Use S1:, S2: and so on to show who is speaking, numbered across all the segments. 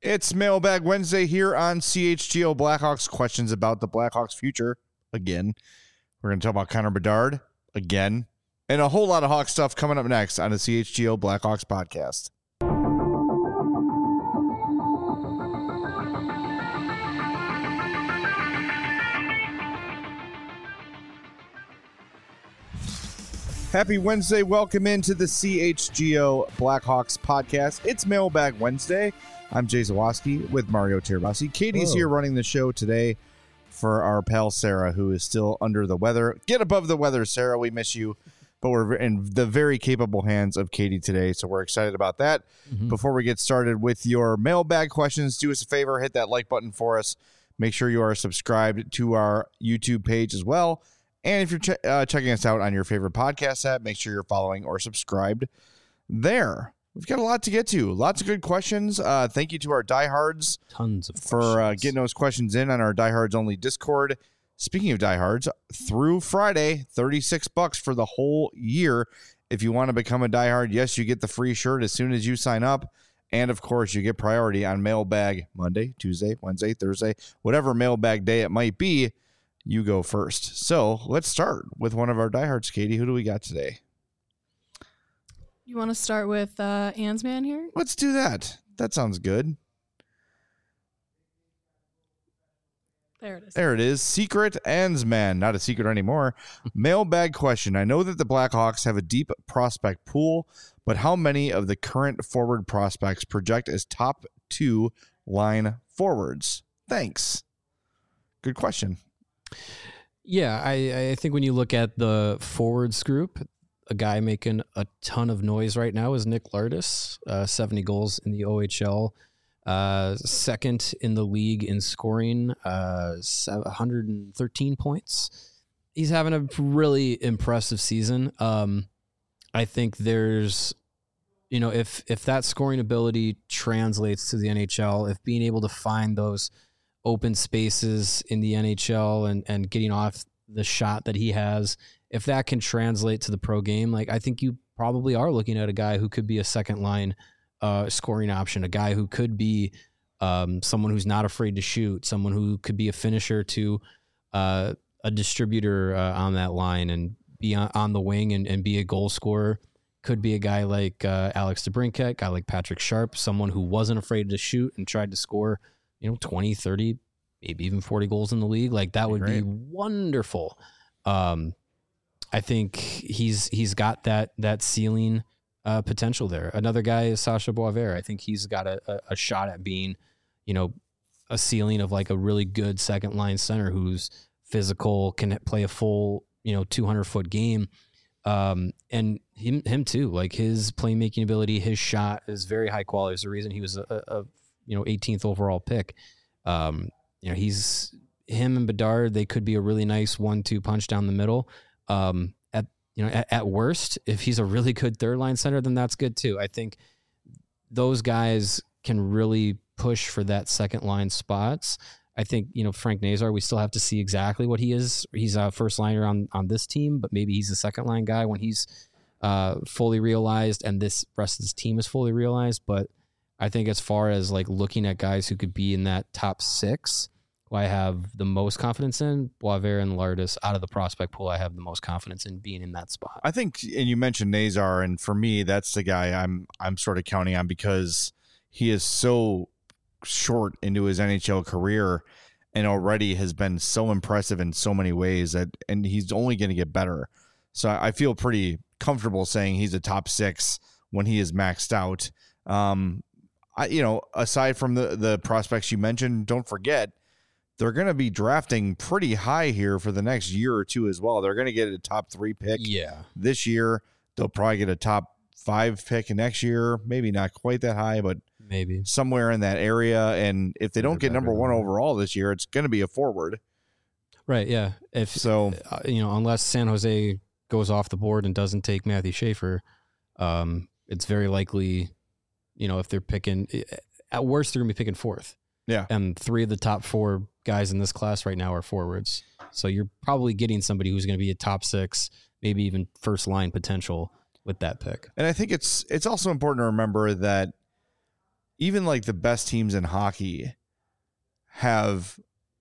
S1: It's Mailbag Wednesday here on CHGO Blackhawks. Questions about the Blackhawks' future again. We're going to talk about Connor Bedard again, and a whole lot of Hawk stuff coming up next on the CHGO Blackhawks podcast. Happy Wednesday. Welcome into the CHGO Blackhawks podcast. It's Mailbag Wednesday. I'm Jay Zawoski with Mario Tirabassi. Katie's here running the show today for our pal Sarah, who is still under the weather. Get above the weather, Sarah. We miss you. But we're in the very capable hands of Katie today, so we're excited about that. Before we get started with your mailbag questions, do us a favor, hit that like button for us. Make sure you are subscribed to our YouTube page as well. And if you're checking us out on your favorite podcast app, make sure you're following or subscribed there. We've got a lot to get to. Lots of good questions. Thank you to our diehards.
S2: Tons of
S1: for getting those questions in on our diehards only Discord. Speaking of diehards, through Friday, $36 for the whole year. If you want to become a diehard, yes, you get the free shirt as soon as you sign up. And of course, you get priority on mailbag Monday, Tuesday, Wednesday, Thursday, whatever mailbag day it might be. You go first. So let's start with one of our diehards, Katie. Who do we got today?
S3: You want to start with Ansman here?
S1: Let's do that. That sounds good.
S3: There it is.
S1: There it is. Secret Ansman. Not a secret anymore. Mailbag question. I know that the Blackhawks have a deep prospect pool, but how many of the current forward prospects project as top 2 line forwards? Thanks. Good question.
S2: Yeah, I think when you look at the forwards group, a guy making a ton of noise right now is Nick Lardis, 70 goals in the OHL, second in the league in scoring, 113 points. He's having a really impressive season. I think there's, if that scoring ability translates to the NHL, if being able to find those open spaces in the NHL and getting off the shot that he has, if that can translate to the pro game, I think you probably are looking at a guy who could be a second line scoring option, a guy who could be someone who's not afraid to shoot, someone who could be a finisher to a distributor on that line and be on the wing and be a goal scorer. Could be a guy like Alex DeBrincat, guy like Patrick Sharp, someone who wasn't afraid to shoot and tried to score 20, 30, maybe even 40 goals in the league. That would be wonderful. I think he's got that ceiling potential there. Another guy is Sasha Boisvert. I think he's got a shot at being, a ceiling of a really good second line center who's physical, can play a full, 200-foot game. And him too, his playmaking ability, his shot is very high quality. It's the reason he was a 18th overall pick. He's him and Bedard. They could be a really nice 1-2 punch down the middle. At worst, if he's a really good third line center, then that's good too. I think those guys can really push for that second line spots. I think, Frank Nazar, we still have to see exactly what he is. He's a first liner on this team, but maybe he's a second line guy when he's fully realized and this rest of his team is fully realized. But I think as far as looking at guys who could be in that top 6, who I have the most confidence in, Boisvert and Lardis, out of the prospect pool, I have the most confidence in being in that spot.
S1: I think, and you mentioned Nazar, and for me, that's the guy I'm sort of counting on because he is so short into his NHL career and already has been so impressive in so many ways and he's only going to get better. So I feel pretty comfortable saying he's a top 6 when he is maxed out. Aside from the prospects you mentioned, don't forget, they're going to be drafting pretty high here for the next year or two as well. They're going to get a top 3 pick this year. They'll probably get a top 5 pick next year. Maybe not quite that high, but
S2: maybe
S1: somewhere in that area. And if they don't get number 1 overall this year, it's going to be a forward.
S2: Right, yeah. Unless San Jose goes off the board and doesn't take Matthew Schaefer, it's very likely, if they're picking, at worst, they're going to be picking 4th.
S1: Yeah.
S2: And 3 of the top 4 guys in this class right now are forwards. So you're probably getting somebody who's going to be a top 6, maybe even first line potential with that pick.
S1: And I think it's also important to remember that, even like the best teams in hockey have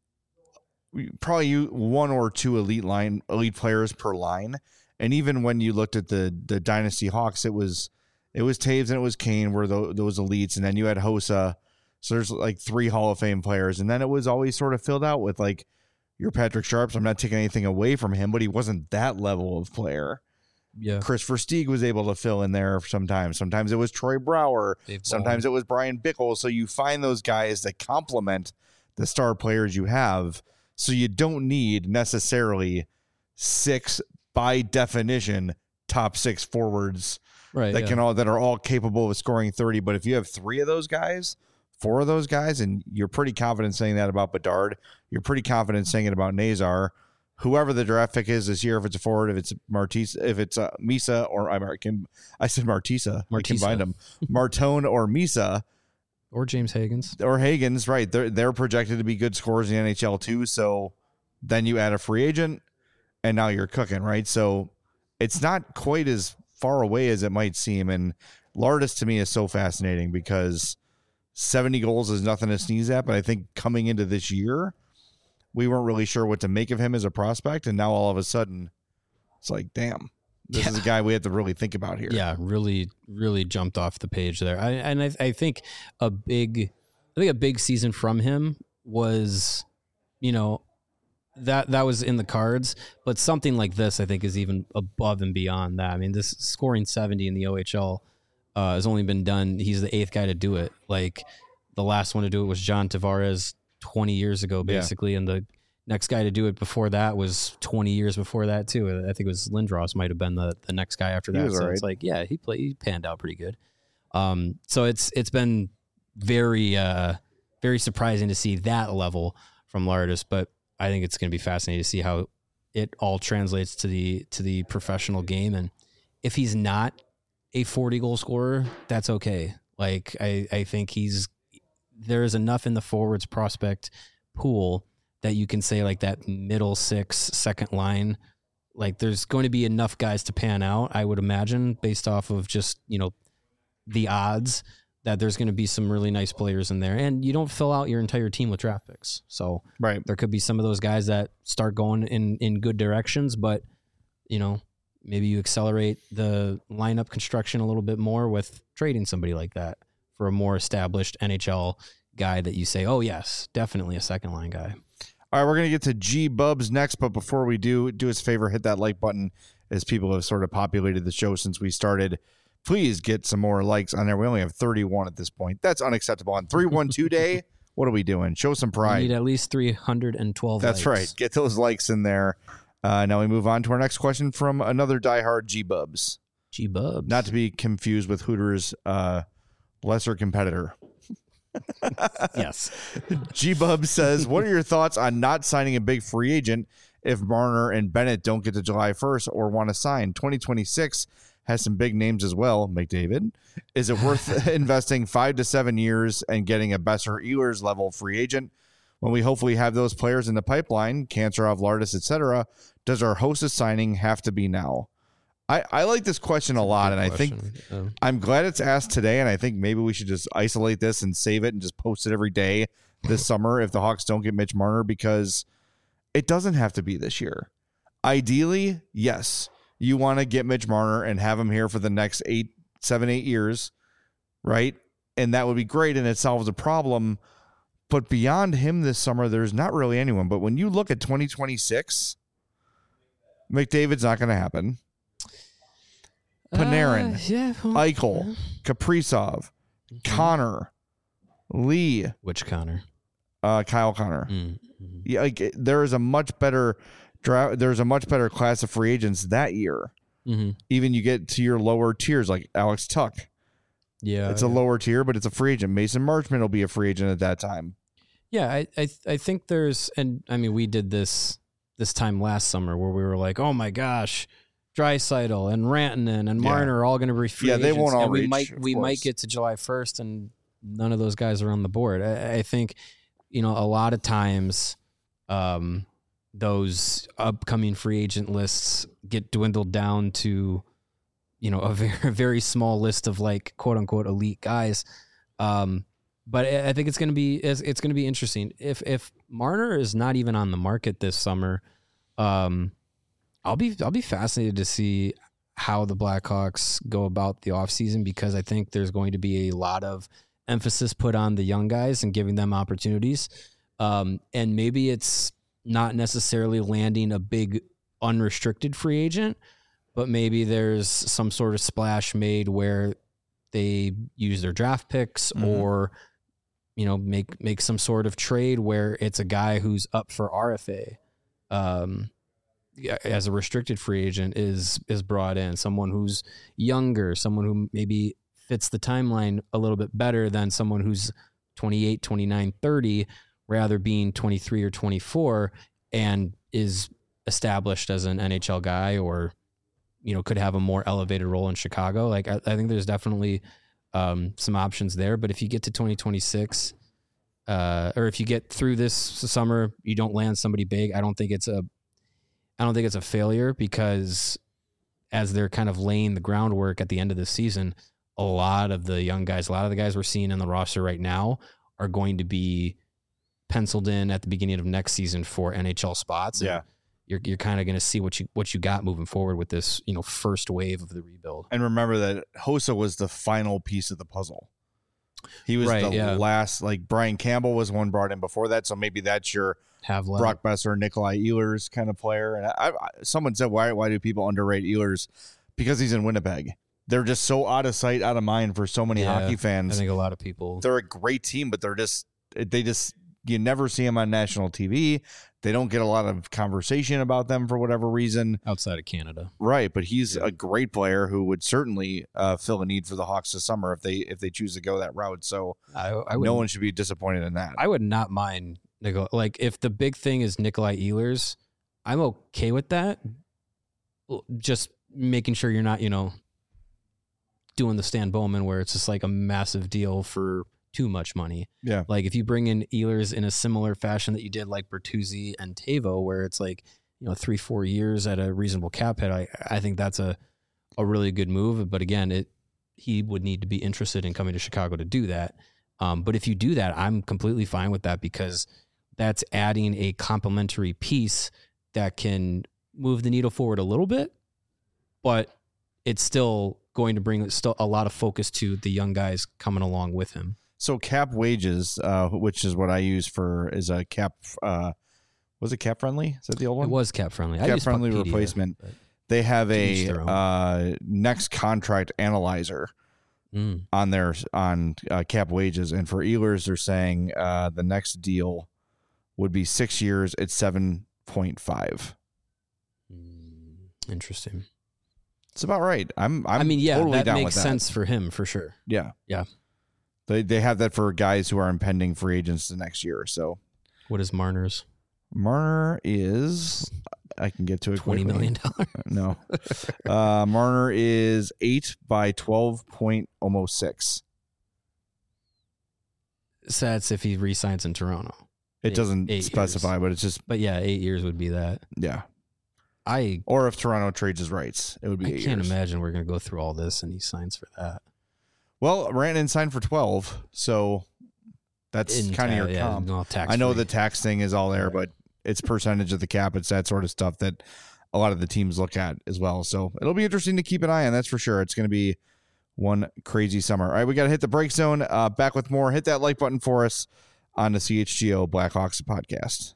S1: probably one or two elite players per line. And even when you looked at the Dynasty Hawks, it was Taves and it was Kane were those elites, and then you had Hossa. So there's like 3 Hall of Fame players, and then it was always sort of filled out with like your Patrick Sharps. I'm not taking anything away from him, but he wasn't that level of player.
S2: Yeah.
S1: Chris Versteeg was able to fill in there sometimes. Sometimes it was Troy Brouwer. Sometimes it was Brian Bickle. So you find those guys that complement the star players you have. So you don't need necessarily 6, by definition, top 6 forwards that are all capable of scoring 30. But if you have 3 of those guys, 4 of those guys, and you're pretty confident saying that about Bedard, you're pretty confident saying it about Nazar, whoever the draft pick is this year, if it's a forward, if it's Misa, or I said Martisa. I combined them. Martone or Misa.
S2: Or James Higgins.
S1: Or Higgins, right. They're projected to be good scorers in the NHL too. So then you add a free agent, and now you're cooking, right? So it's not quite as far away as it might seem. And Lardis to me is so fascinating because 70 goals is nothing to sneeze at. But I think coming into this year, we weren't really sure what to make of him as a prospect. And now all of a sudden, it's like, damn, this is a guy we have to really think about here.
S2: Yeah, really, really jumped off the page there. I think a big season from him was, that was in the cards. But something like this, I think, is even above and beyond that. I mean, this scoring 70 in the OHL has only been done. He's the 8th guy to do it. Like the last one to do it was John Tavares 20 years ago, basically. And the next guy to do it before that was 20 years before that too. I think it was Lindros might have been the next guy after that. So it's like, yeah, he panned out pretty good. So it's been very, very surprising to see that level from Lardis, but I think it's going to be fascinating to see how it all translates to the professional game. And if he's not a 40 goal scorer, that's okay. Like I think there's enough in the forwards prospect pool that you can say like that middle 6 second line, like there's going to be enough guys to pan out, I would imagine, based off of just, the odds that there's going to be some really nice players in there. And you don't fill out your entire team with draft picks. So there could be some of those guys that start going in good directions, but maybe you accelerate the lineup construction a little bit more with trading somebody like that for a more established NHL guy that you say, oh yes, definitely a second line guy.
S1: All right, we're going to get to G Bubs next, but before we do us a favor, hit that like button as people have sort of populated the show since we started. Please get some more likes on there. We only have 31 at this point. That's unacceptable. On 312 Day, what are we doing? Show some pride.
S2: We need at least 312
S1: That's
S2: likes.
S1: right. Get those likes in there. Now we move on to our next question from another diehard G Bubs.
S2: G Bubs.
S1: Not to be confused with Hooters' lesser competitor.
S2: Yes.
S1: G-Bub says, what are your thoughts on not signing a big free agent if Marner and Bennett don't get to July 1st or want to sign? 2026 has some big names as well, McDavid. Is it worth investing 5 to 7 years and getting a Besser Ehlers level free agent when we hopefully have those players in the pipeline, Kancherov, Lardis, etc.? Does our hostess signing have to be now? I like this question a lot, and I think I'm glad it's asked today, and I think maybe we should just isolate this and save it and just post it every day this summer if the Hawks don't get Mitch Marner, because it doesn't have to be this year. Ideally, yes, you want to get Mitch Marner and have him here for the next 7, 8 years, right? And that would be great, and it solves a problem. But beyond him this summer, there's not really anyone. But when you look at 2026, McDavid's not going to happen. Panarin, Eichel, Kaprizov, Connor, Lee.
S2: Which Connor?
S1: Kyle Connor. Yeah, like there is a much better draft. There's a much better class of free agents that year. Even you get to your lower tiers like Alex Tuck.
S2: Yeah,
S1: it's a lower tier, but it's a free agent. Mason Marchment will be a free agent at that time.
S2: Yeah, I think there's, and I mean we did this time last summer where we were like, oh my gosh, Draisaitl and Rantanen and Marner are all going to be free agents.
S1: They won't all
S2: and
S1: reach.
S2: We might get to July 1st and none of those guys are on the board. I think, a lot of times those upcoming free agent lists get dwindled down to, a very, very small list of like quote unquote elite guys. But I think it's going to be interesting. If Marner is not even on the market this summer, I'll be fascinated to see how the Blackhawks go about the offseason, because I think there's going to be a lot of emphasis put on the young guys and giving them opportunities. And maybe it's not necessarily landing a big unrestricted free agent, but maybe there's some sort of splash made where they use their draft picks or, make some sort of trade where it's a guy who's up for RFA. As a restricted free agent is brought in, someone who's younger, someone who maybe fits the timeline a little bit better than someone who's 28, 29, 30, rather being 23 or 24 and is established as an NHL guy or, could have a more elevated role in Chicago. Like I think there's definitely some options there, but if you get to 2026 or if you get through this summer, you don't land somebody big, I don't think it's a failure, because as they're kind of laying the groundwork at the end of the season, a lot of the young guys, a lot of the guys we're seeing in the roster right now are going to be penciled in at the beginning of next season for NHL spots.
S1: Yeah.
S2: You're kind of going to see what you got moving forward with this, first wave of the rebuild.
S1: And remember that Hossa was the final piece of the puzzle. He was last, like Brian Campbell was one brought in before that. So maybe that's your Brock Besser, Nikolai Ehlers kind of player. And someone said, why do people underrate Ehlers? Because he's in Winnipeg. They're just so out of sight, out of mind for so many hockey fans.
S2: I think a lot of people.
S1: They're a great team, but you never see them on national TV. They don't get a lot of conversation about them for whatever reason.
S2: Outside of Canada.
S1: Right, but he's a great player who would certainly fill a need for the Hawks this summer if they choose to go that route. So no one should be disappointed in that.
S2: I would not mind Nikolai. Like, if the big thing is Nikolai Ehlers, I'm okay with that. Just making sure you're not, doing the Stan Bowman where it's just like a massive deal for too much money.
S1: Yeah.
S2: Like if you bring in Ehlers in a similar fashion that you did like Bertuzzi and Tavo, where it's like, 3-4 years at a reasonable cap hit, I think that's a really good move. But again, he would need to be interested in coming to Chicago to do that. But if you do that, I'm completely fine with that, because that's adding a complementary piece that can move the needle forward a little bit, but it's still going to bring a lot of focus to the young guys coming along with him.
S1: So Cap Wages, which is what I use is a cap. Was it Cap Friendly? Is that the old one?
S2: It was Cap Friendly.
S1: Cap Friendly replacement. They have a next contract analyzer on Cap Wages, and for Ehlers, they're saying the next deal would be 6 years at 7.5.
S2: Interesting.
S1: It's about right. I'm totally down with that.
S2: That makes sense for him for sure.
S1: Yeah.
S2: Yeah.
S1: They have that for guys who are impending free agents the next year or so.
S2: What is Marner's?
S1: Marner is, I can get to it
S2: $20 million.
S1: No. Marner is 8 by 12.6.
S2: So that's if he re-signs in Toronto.
S1: It doesn't specify, but it's just.
S2: But yeah, 8 years would be that.
S1: Yeah.
S2: I
S1: Or if Toronto trades his rights, it would be 8 years.
S2: I can't imagine we're going to go through all this and he signs for that.
S1: Well, Rantanen signed for 12, so that's kind of your comp. I know the tax thing is all there, but it's percentage of the cap. It's that sort of stuff that a lot of the teams look at as well. So it'll be interesting to keep an eye on, that's for sure. It's going to be one crazy summer. All right, we got to hit the break zone. Back with more. Hit that like button for us on the CHGO Blackhawks podcast.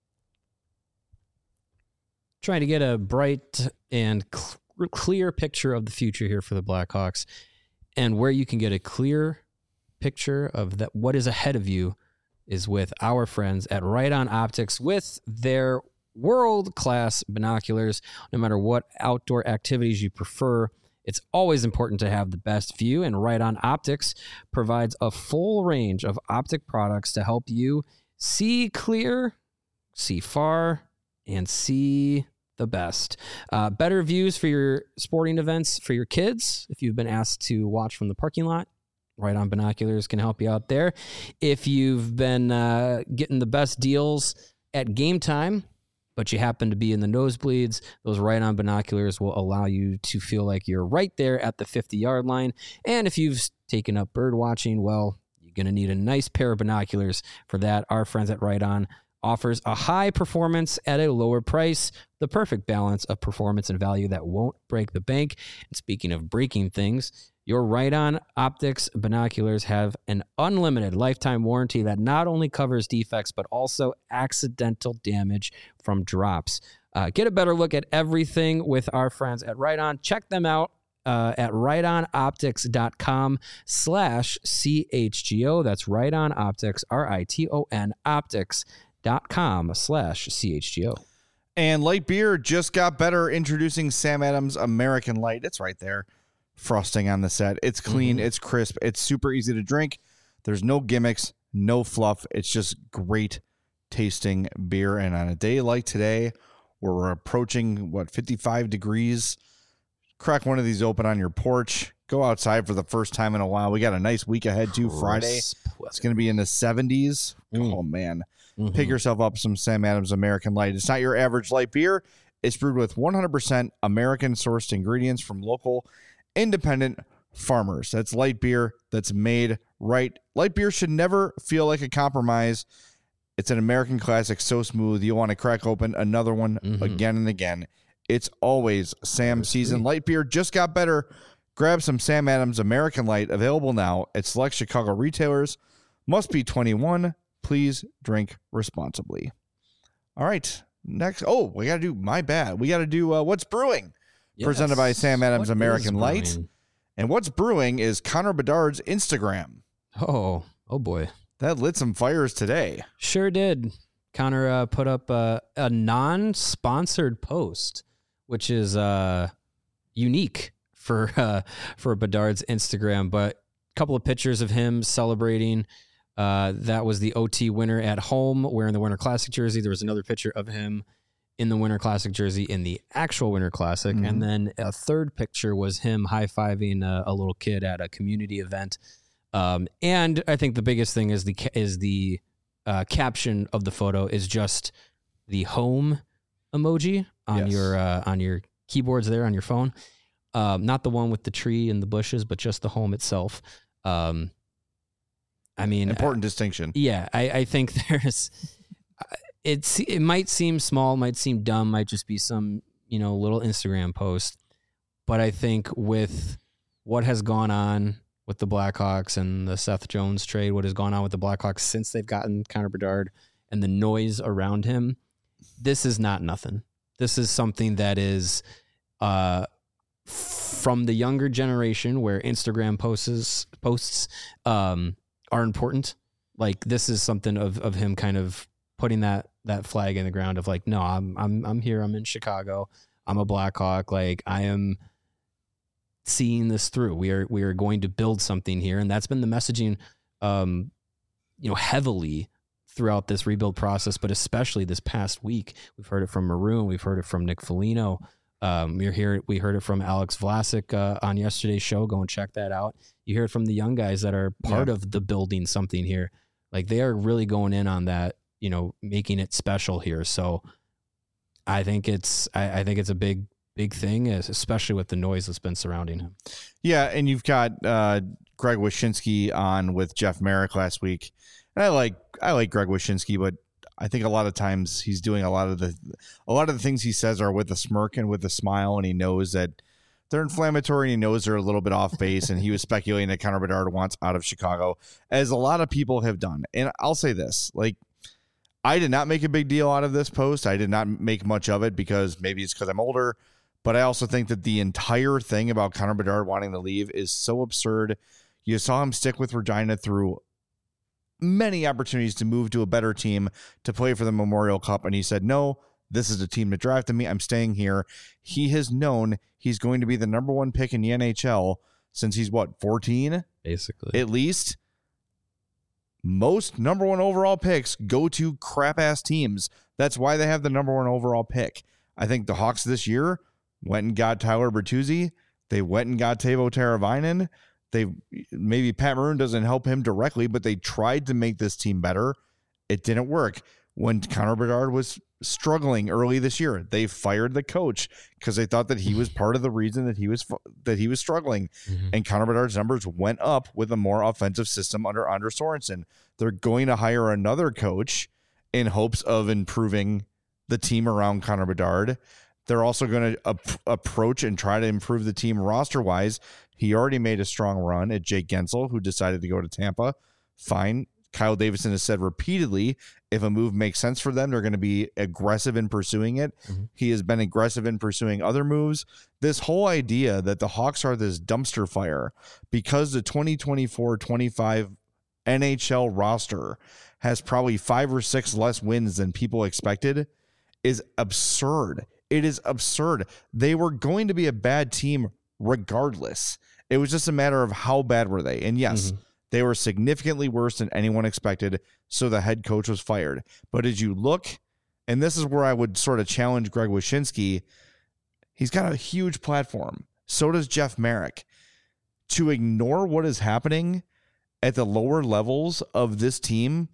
S2: Trying to get a bright and clear picture of the future here for the Blackhawks, and where you can get a clear picture of that what is ahead of you is with our friends at Right On Optics with their world-class binoculars. No matter what outdoor activities you prefer, it's always important to have the best view, and Right On Optics provides a full range of optic products to help you see clear, see far, and see the best. Better views for your sporting events for your kids. If you've been asked to watch from the parking lot, Right On Binoculars can help you out there. If you've been getting the best deals at game time, but you happen to be in the nosebleeds, those Right On Binoculars will allow you to feel like you're right there at the 50-yard line. And if you've taken up bird watching, well, you Going to need a nice pair of binoculars for that. Our friends at Right On offers a high performance at a lower price, the perfect balance of performance and value that won't break the bank. And speaking of breaking things, your Right On Optics binoculars have an unlimited lifetime warranty that not only covers defects, but also accidental damage from drops. Get a better look at everything with our friends at Right On. Check them out at rightonoptics.com/CHGO. That's Right On Optics, RITON optics.com/CHGO.
S1: And light beer just got better, introducing Sam Adams American Light. It's right there. Frosting on the set. It's clean. It's crisp. It's super easy to drink. There's no gimmicks, no fluff. It's just great tasting beer. And on a day like today, where we're approaching, 55 degrees, crack one of these open on your porch. Go outside for the first time in a while. We got a nice week ahead, too. Friday, it's going to be in the 70s. Oh, man. Pick yourself up some Sam Adams American Light. It's not your average light beer. It's brewed with 100% American-sourced ingredients from local independent farmers. That's light beer that's made right. Light beer should never feel like a compromise. It's an American classic, so smooth. You'll want to crack open another one again and again. It's always Sam season. Light beer just got better. Grab some Sam Adams American Light, available now at select Chicago retailers. Must be 21. Please drink responsibly. All right. Next. Oh, we got to do, my bad. We got to do What's Brewing. Yes. Presented by Sam Adams American Light. And What's Brewing is Connor Bedard's Instagram.
S2: Oh boy.
S1: That lit some fires today. Sure
S2: did. Connor put up a non-sponsored post, which is unique for Bedard's Instagram. But a couple of pictures of him celebrating. That was the OT winner at home wearing the Winter Classic jersey. There was another picture of him in the Winter Classic jersey in the actual Winter Classic. And then a third picture was him high-fiving a little kid at a community event. And I think the biggest thing is the caption of the photo is just the home emoji on your keyboards there on your phone. Not the one with the tree and the bushes, but just the home itself. I mean,
S1: important distinction.
S2: Yeah, I think there's. It might seem small, might seem dumb, might just be some little Instagram post, but I think with what has gone on with the Blackhawks and the Seth Jones trade, what has gone on with the Blackhawks since they've gotten Connor Bedard and the noise around him, this is not nothing. This is something that is from the younger generation where Instagram posts are important. Like, this is something of him kind of putting that flag in the ground of like, no, I'm here. I'm in Chicago. I'm a Blackhawk. Like, I am seeing this through. We are going to build something here. And that's been the messaging, heavily throughout this rebuild process, but especially this past week. We've heard it from Maroon. We've heard it from Nick Foligno. We heard it from Alex Vlasic on yesterday's show. Go and check that out. You hear it from the young guys that are part of the building something here. Like, they are really going in on that, making it special here. So I think it's a big thing, especially with the noise that's been surrounding him.
S1: Yeah. And you've got Greg Wyshynski on with Jeff Merrick last week. And I like Greg Wyshynski, but I think a lot of times he's doing a lot of the things he says are with a smirk and with a smile, and he knows that they're inflammatory, and he knows they're a little bit off base. And he was speculating that Connor Bedard wants out of Chicago, as a lot of people have done. And I'll say this, like, I did not make a big deal out of this post. I did not make much of it because maybe it's because I'm older, but I also think that the entire thing about Connor Bedard wanting to leave is so absurd. You saw him stick with Regina through many opportunities to move to a better team to play for the Memorial Cup, and he said, no, this is the team that drafted me. I'm staying here. He has known he's going to be the number one pick in the NHL since he's 14?
S2: Basically.
S1: At least. Most number one overall picks go to crap-ass teams. That's why they have the number one overall pick. I think the Hawks this year went and got Tyler Bertuzzi. They went and got Teuvo Teravainen. Maybe Pat Maroon doesn't help him directly, but they tried to make this team better. It didn't work. when Connor Bedard was struggling early this year. They fired the coach because they thought that he was part of the reason that he was struggling.
S2: Mm-hmm.
S1: And Connor Bedard's numbers went up with a more offensive system under Anders Sorensen. They're going to hire another coach in hopes of improving the team around Connor Bedard. They're also going to approach and try to improve the team roster-wise. He already made a strong run at Jake Gensel, who decided to go to Tampa. Fine. Kyle Davidson has said repeatedly, if a move makes sense for them, they're going to be aggressive in pursuing it. Mm-hmm. He has been aggressive in pursuing other moves. This whole idea that the Hawks are this dumpster fire because the 2024-25 NHL roster has probably 5 or 6 less wins than people expected is absurd. It is absurd. They were going to be a bad team regardless. It was just a matter of how bad were they. And yes, they were significantly worse than anyone expected, so the head coach was fired. But as you look, and this is where I would sort of challenge Greg Wyshynski, he's got a huge platform. So does Jeff Marek. To ignore what is happening at the lower levels of this team,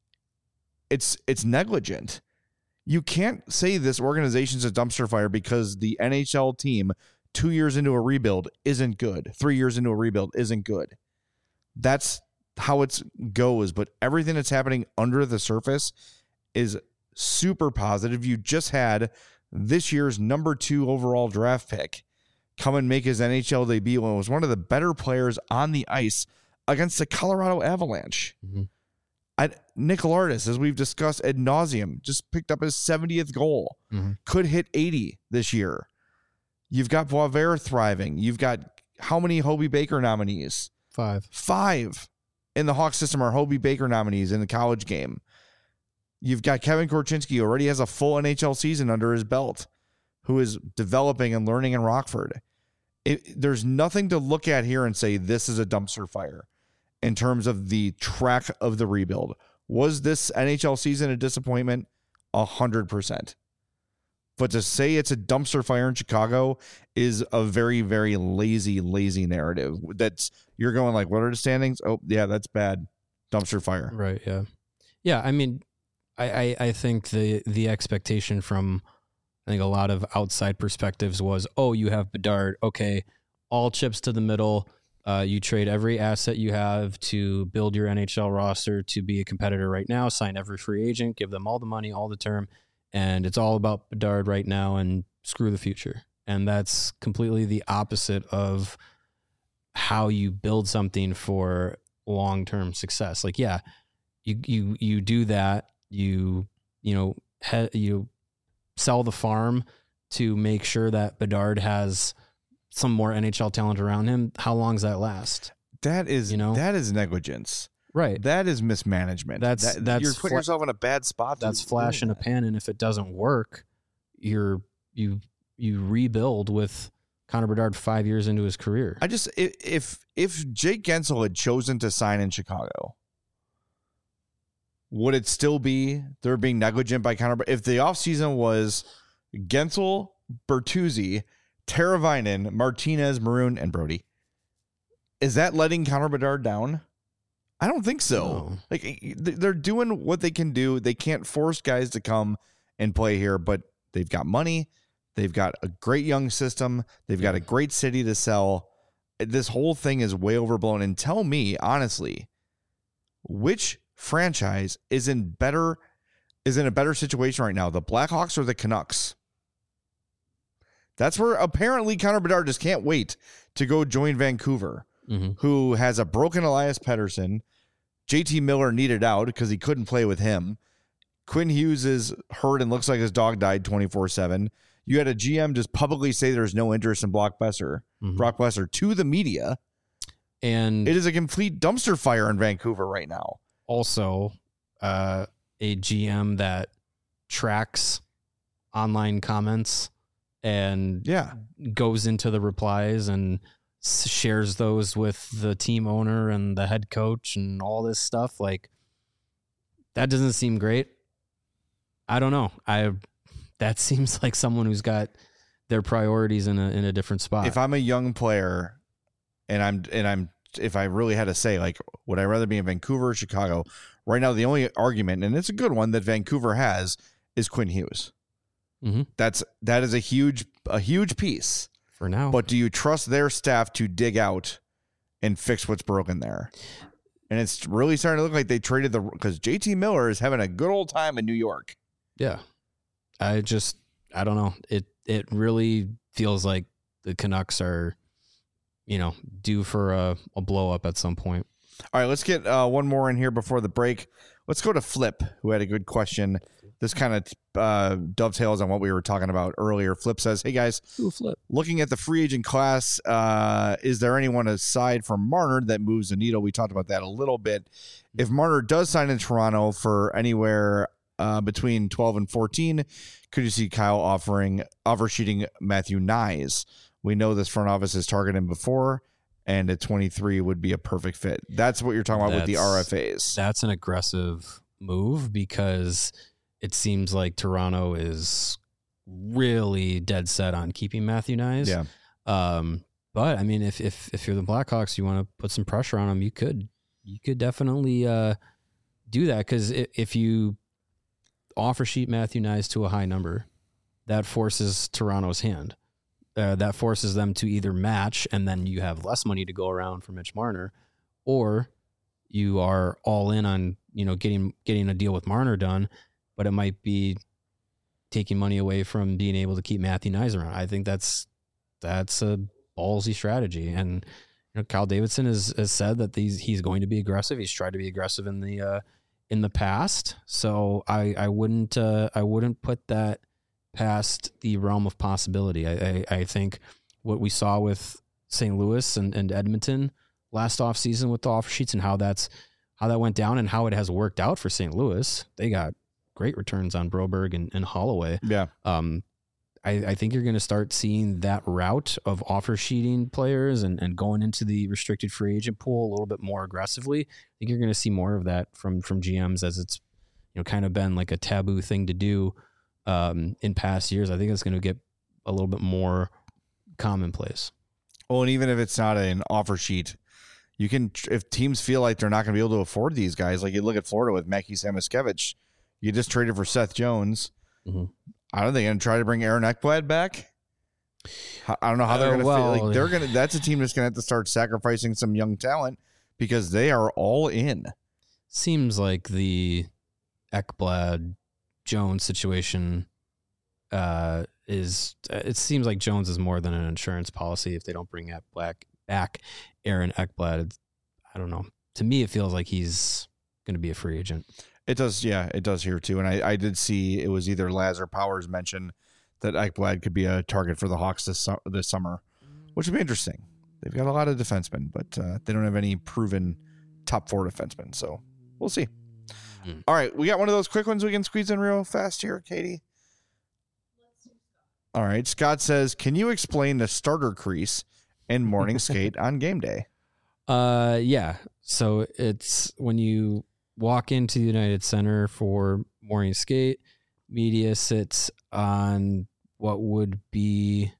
S1: it's negligent. You can't say this organization's a dumpster fire because the NHL team 2 years into a rebuild isn't good. 3 years into a rebuild isn't good. That's how it goes. But everything that's happening under the surface is super positive. You just had this year's number 2 overall draft pick come and make his NHL debut and was one of the better players on the ice against the Colorado Avalanche. Mm-hmm. Nick Lardis, as we've discussed ad nauseum, just picked up his 70th goal. Mm-hmm. Could hit 80 this year. You've got Boisvert thriving. You've got how many Hobey Baker nominees? 5 in the Hawks system are Hobey Baker nominees in the college game. You've got Kevin Korchinski, already has a full NHL season under his belt, who is developing and learning in Rockford. There's nothing to look at here and say this is a dumpster fire in terms of the track of the rebuild. Was this NHL season a disappointment? 100%. But to say it's a dumpster fire in Chicago is a very, very lazy narrative. That's you're going like, what are the standings? Oh, yeah, that's bad. Dumpster fire.
S2: Right, yeah. Yeah, I mean, I think the expectation from, I think a lot of outside perspectives was, oh, you have Bedard. Okay, all chips to the middle. You trade every asset you have to build your NHL roster to be a competitor right now, sign every free agent, give them all the money, all the term. And it's all about Bedard right now and screw the future. And that's completely the opposite of how you build something for long-term success. Like, yeah, you do that. You sell the farm to make sure that Bedard has some more NHL talent around him. How long does that last?
S1: That is negligence.
S2: Right.
S1: That is mismanagement.
S2: That's
S1: you're putting yourself in a bad spot.
S2: That's flash in a pan, and if it doesn't work, you rebuild with Connor Bedard 5 years into his career.
S1: If Jake Gensel had chosen to sign in Chicago, would it still be they're being negligent by Connor? If the offseason was Gensel, Bertuzzi, Teravainen, Martinez, Maroon, and Brody, is that letting Connor Bedard down? I don't think so. No. Like, they're doing what they can do. They can't force guys to come and play here, but they've got money. They've got a great young system. They've got a great city to sell. This whole thing is way overblown. And tell me, honestly, which franchise is in a better situation right now, the Blackhawks or the Canucks? That's where apparently Connor Bedard just can't wait to go join Vancouver, who has a broken Elias Pettersson. JT Miller needed out because he couldn't play with him. Quinn Hughes is hurt and looks like his dog died 24/7. You had a GM just publicly say there's no interest in Brock Besser to the media. And it is a complete dumpster fire in Vancouver right now.
S2: Also, a GM that tracks online comments and goes into the replies and shares those with the team owner and the head coach and all this stuff. Like, that doesn't seem great. I don't know. That seems like someone who's got their priorities in a different spot.
S1: If I'm a young player and I'm if I really had to say, like, would I rather be in Vancouver or Chicago Right now, the only argument, and it's a good one that Vancouver has, is Quinn Hughes.
S2: Mm-hmm.
S1: That is a huge piece
S2: for now.
S1: But do you trust their staff to dig out and fix what's broken there? And it's really starting to look like they traded because JT Miller is having a good old time in New York.
S2: Yeah, I don't know. It really feels like the Canucks are, due for a blow up at some point.
S1: All right, let's get one more in here before the break. Let's go to Flip, who had a good question. This kind of dovetails on what we were talking about earlier. Flip says, hey, guys,
S2: Flip.
S1: Looking at the free agent class, is there anyone aside from Marner that moves the needle? We talked about that a little bit. If Marner does sign in Toronto for anywhere between 12 and 14, could you see Kyle offer-sheeting Matthew Knies? We know this front office has targeted him before, and at 23 would be a perfect fit. That's what you're talking about with the RFAs.
S2: That's an aggressive move because it seems like Toronto is really dead set on keeping Matthew Knies.
S1: Yeah.
S2: But I mean, if you're the Blackhawks, you want to put some pressure on them, you could definitely do that, because if you offer sheet Matthew Knies to a high number, that forces Toronto's hand. That forces them to either match, and then you have less money to go around for Mitch Marner, or you are all in on getting a deal with Marner done, but it might be taking money away from being able to keep Matthew Knies around. I think that's a ballsy strategy, and Kyle Davidson has said that he's going to be aggressive. He's tried to be aggressive in the past, so I wouldn't put that past the realm of possibility. I think what we saw with St. Louis and Edmonton last offseason with the offer sheets and how that went down and how it has worked out for St. Louis. They got great returns on Broberg and Holloway.
S1: Yeah.
S2: I think you're going to start seeing that route of offer sheeting players and going into the restricted free agent pool a little bit more aggressively. I think you're going to see more of that from GMs, as it's kind of been like a taboo thing to do in past years. I think it's going to get a little bit more commonplace.
S1: Well, and even if it's not an offer sheet, you can, if teams feel like they're not going to be able to afford these guys, like you look at Florida with Mackie Samoskevich, you just traded for Seth Jones.
S2: Mm-hmm.
S1: I don't think they're going to try to bring Aaron Ekblad back. I don't know how they're going to feel. Like they're going to. That's a team that's going to have to start sacrificing some young talent because they are all in.
S2: Seems like the Ekblad Jones situation is. It seems like Jones is more than an insurance policy if they don't bring back Aaron Ekblad. I don't know. To me, it feels like he's going to be a free agent.
S1: It does, yeah, it does here too. And I did see it was either Laz or Powers mentioned that Ekblad could be a target for the Hawks this summer, which would be interesting. They've got a lot of defensemen, but they don't have any proven top 4 defensemen, so we'll see. All right, we got one of those quick ones we can squeeze in real fast here, Katie. All right, Scott says, can you explain the starter crease and morning skate on game day?
S2: Yeah. So it's when you walk into the United Center for morning skate, media sits on what would be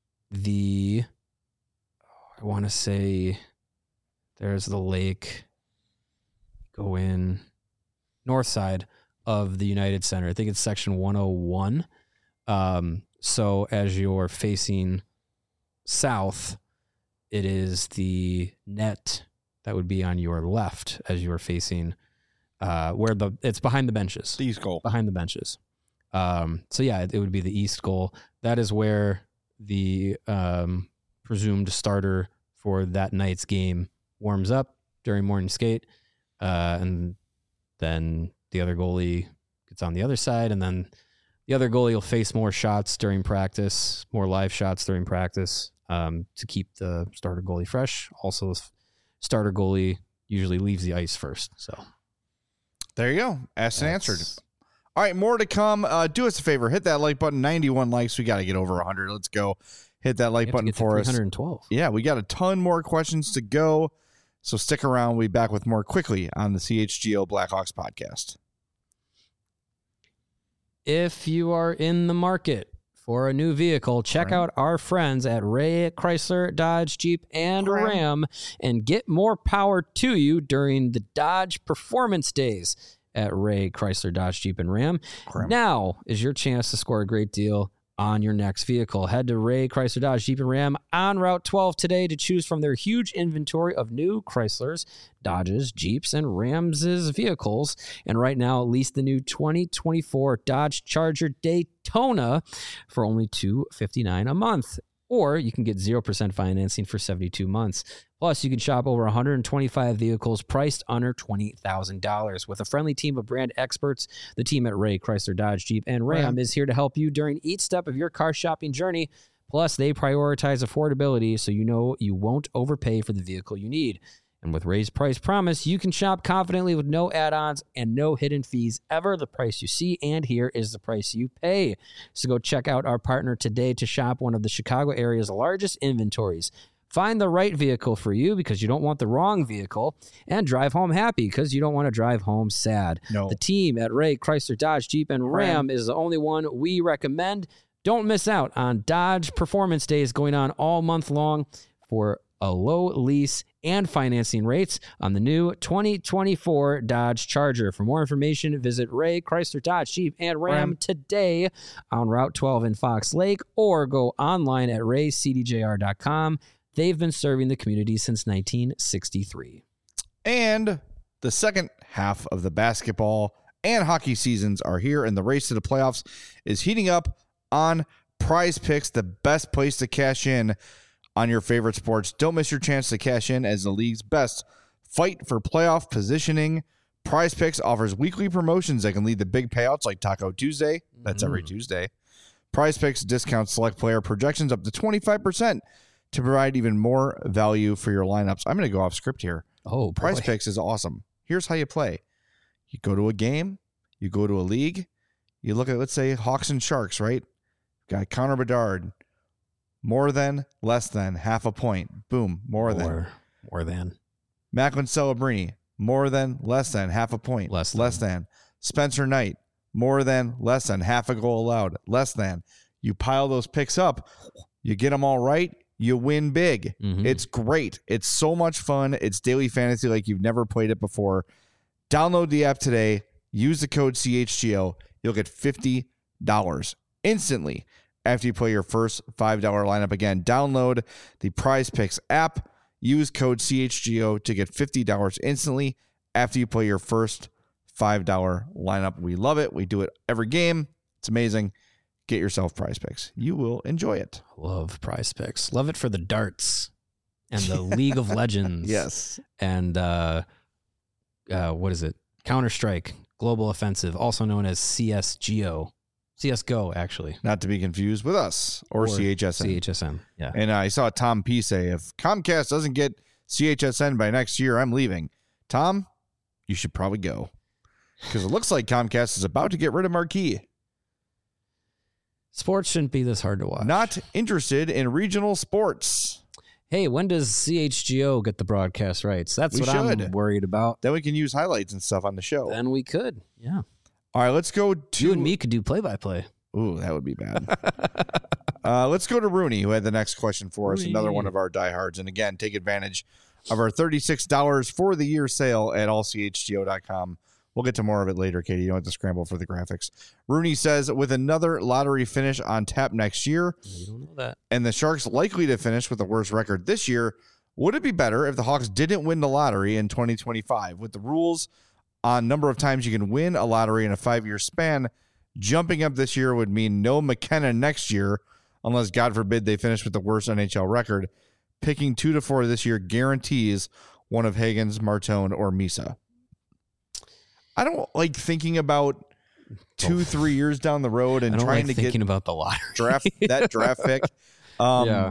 S2: I want to say there's the lake, go in north side of the United Center. I think it's section 101. So as you're facing south, it is the net that would be on your left as you're facing where it's behind the benches.
S1: The east goal.
S2: Behind the benches. So yeah, it would be the east goal. That is where the presumed starter for that night's game warms up during morning skate. And then the other goalie gets on the other side, and then the other goalie will face more shots during practice, more live shots during practice, to keep the starter goalie fresh. Also, starter goalie usually leaves the ice first. So
S1: there you go. Asked and answered. All right, more to come. Do us a favor. Hit that like button. 91 likes. We got to get over 100. Let's go. Hit that like button for us.
S2: 312.
S1: Yeah, we got a ton more questions to go. So stick around. We'll be back with more quickly on the CHGO Blackhawks podcast.
S2: If you are in the market for a new vehicle, check out our friends at Ray Chrysler, Dodge, Jeep, and Ram and get more power to you during the Dodge Performance Days at Ray Chrysler, Dodge, Jeep, and Ram. Now is your chance to score a great deal on your next vehicle. Head to Ray Chrysler, Dodge, Jeep, and Ram on Route 12 today to choose from their huge inventory of new Chryslers, Dodges, Jeeps, and Rams' vehicles. And right now, lease the new 2024 Dodge Charger Daytona for only $259 a month. Or you can get 0% financing for 72 months. Plus, you can shop over 125 vehicles priced under $20,000. With a friendly team of brand experts, the team at Ray Chrysler, Dodge, Jeep, and Ram is here to help you during each step of your car shopping journey. Plus, they prioritize affordability so you know you won't overpay for the vehicle you need. And with Ray's Price Promise, you can shop confidently with no add-ons and no hidden fees ever. The price you see and hear is the price you pay. So go check out our partner today to shop one of the Chicago area's largest inventories. Find the right vehicle for you because you don't want the wrong vehicle, and drive home happy because you don't want to drive home sad.
S1: No.
S2: The team at Ray Chrysler, Dodge, Jeep, and Ram is the only one we recommend. Don't miss out on Dodge Performance Days going on all month long for a low lease and financing rates on the new 2024 Dodge Charger. For more information, visit Ray Chrysler, Dodge, Jeep, and Ram today on Route 12 in Fox Lake, or go online at raycdjr.com. They've been serving the community since 1963.
S1: And the second half of the basketball and hockey seasons are here, and the race to the playoffs is heating up on Prize Picks, the best place to cash in on your favorite sports. Don't miss your chance to cash in as the league's best fight for playoff positioning. Prize Picks offers weekly promotions that can lead to big payouts like Taco Tuesday. That's every Tuesday. Prize Picks discounts select player projections up to 25% to provide even more value for your lineups. I'm going to go off script here.
S2: Oh,
S1: Prize Picks is awesome. Here's how you play. You go to a game. You go to a league. You look at, let's say, Hawks and Sharks, right? Got Connor Bedard. More than, less than, half a point. Boom, more than.
S2: More than.
S1: Macklin Celebrini, more than, less than, half a point.
S2: Less
S1: than. Spencer Knight, more than, less than, half a goal allowed. Less than. You pile those picks up. You get them all right. You win big. It's great. It's so much fun. It's daily fantasy like you've never played it before. Download the app today. Use the code CHGO. You'll get $50 instantly after you play your first $5 lineup. Again, download the Prize Picks app. Use code CHGO to get $50 instantly after you play your first $5 lineup. We love it. We do it every game. It's amazing. Get yourself Prize Picks. You will enjoy it.
S2: Love Prize Picks. Love it for the darts and the League of Legends.
S1: Yes.
S2: And what is it? Counter-Strike Global Offensive, also known as CSGO. CSGO, actually.
S1: Not to be confused with us or CHSN.
S2: CHSN, yeah.
S1: And I saw Tom P say, if Comcast doesn't get CHSN by next year, I'm leaving. Tom, you should probably go. Because it looks like Comcast is about to get rid of Marquee.
S2: Sports shouldn't be this hard to watch.
S1: Not interested in regional sports.
S2: Hey, when does CHGO get the broadcast rights? That's what I'm worried about.
S1: Then we can use highlights and stuff on the show.
S2: Then we could, yeah.
S1: All right, let's go to...
S2: You and me could do play-by-play.
S1: Ooh, that would be bad. Let's go to Rooney, who had the next question for us. Another one of our diehards. And again, take advantage of our $36 for the year sale at allchgo.com. We'll get to more of it later, Katie. You don't have to scramble for the graphics. Rooney says, with another lottery finish on tap next year,
S2: you don't know that,
S1: and the Sharks likely to finish with the worst record this year, would it be better if the Hawks didn't win the lottery in 2025? With the rules on number of times you can win a lottery in a 5-year span, jumping up this year would mean no McKenna next year, unless, God forbid, they finish with the worst NHL record. Picking 2 to 4 this year guarantees one of Hagens, Martone, or Misa. I don't like thinking about 2-3 years down the road and trying to
S2: thinking
S1: get
S2: about the lottery
S1: draft pick.
S2: Yeah.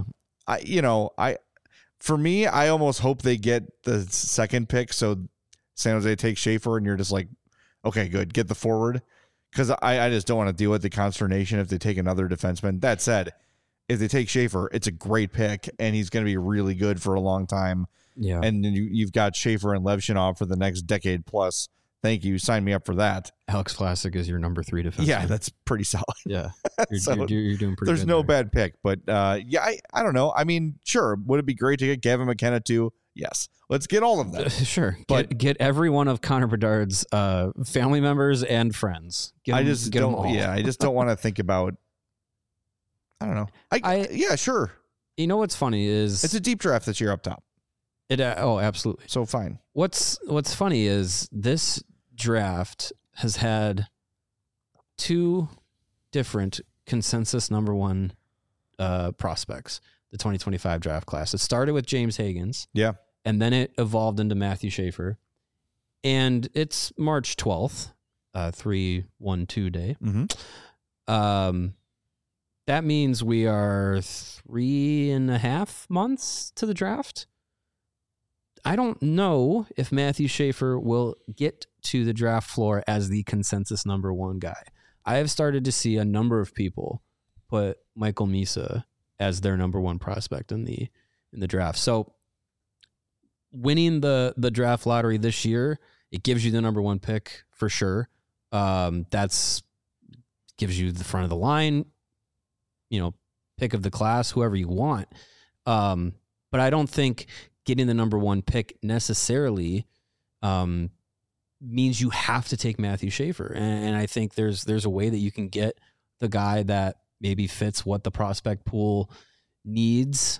S1: For me, I almost hope they get the second pick. So San Jose takes Schaefer and you're just like, okay, good. Get the forward. Because I just don't want to deal with the consternation if they take another defenseman. That said, if they take Schaefer, it's a great pick and he's going to be really good for a long time.
S2: Yeah.
S1: And you've got Schaefer and Levshinov for the next decade plus. Thank you. Sign me up for that.
S2: Alex Vlasic is your number 3 defenseman.
S1: Yeah, that's pretty solid.
S2: Yeah. You're,
S1: So,
S2: you're doing pretty
S1: there's
S2: good
S1: no
S2: there.
S1: bad pick, but yeah, I don't know. I mean, sure. Would it be great to get Gavin McKenna too? Yes. Let's get all of them.
S2: Sure.
S1: But-
S2: get every one of Connor Bedard's family members and friends.
S1: I just
S2: get 'em
S1: don't.
S2: all.
S1: Yeah, I just don't want to think about. I don't know. Yeah, sure.
S2: You know what's funny is
S1: It's a deep draft this year up top,
S2: oh, absolutely.
S1: so fine.
S2: What's funny is this draft has had 2 different consensus number 1 prospects, the 2025 draft class. It started with James Higgins.
S1: Yeah.
S2: And then it evolved into Matthew Schaefer. And it's March 12th, 3/1/2 day.
S1: Mm-hmm.
S2: That means we are 3.5 months to the draft. I don't know if Matthew Schaefer will get to the draft floor as the consensus number 1 guy. I have started to see a number of people put Michael Misa as their number 1 prospect in the draft. So winning the draft lottery this year, it gives you the number 1 pick for sure. That's gives you the front of the line, pick of the class, whoever you want. But I don't think getting the number 1 pick necessarily means you have to take Matthew Schaefer. And I think there's a way that you can get the guy that maybe fits what the prospect pool needs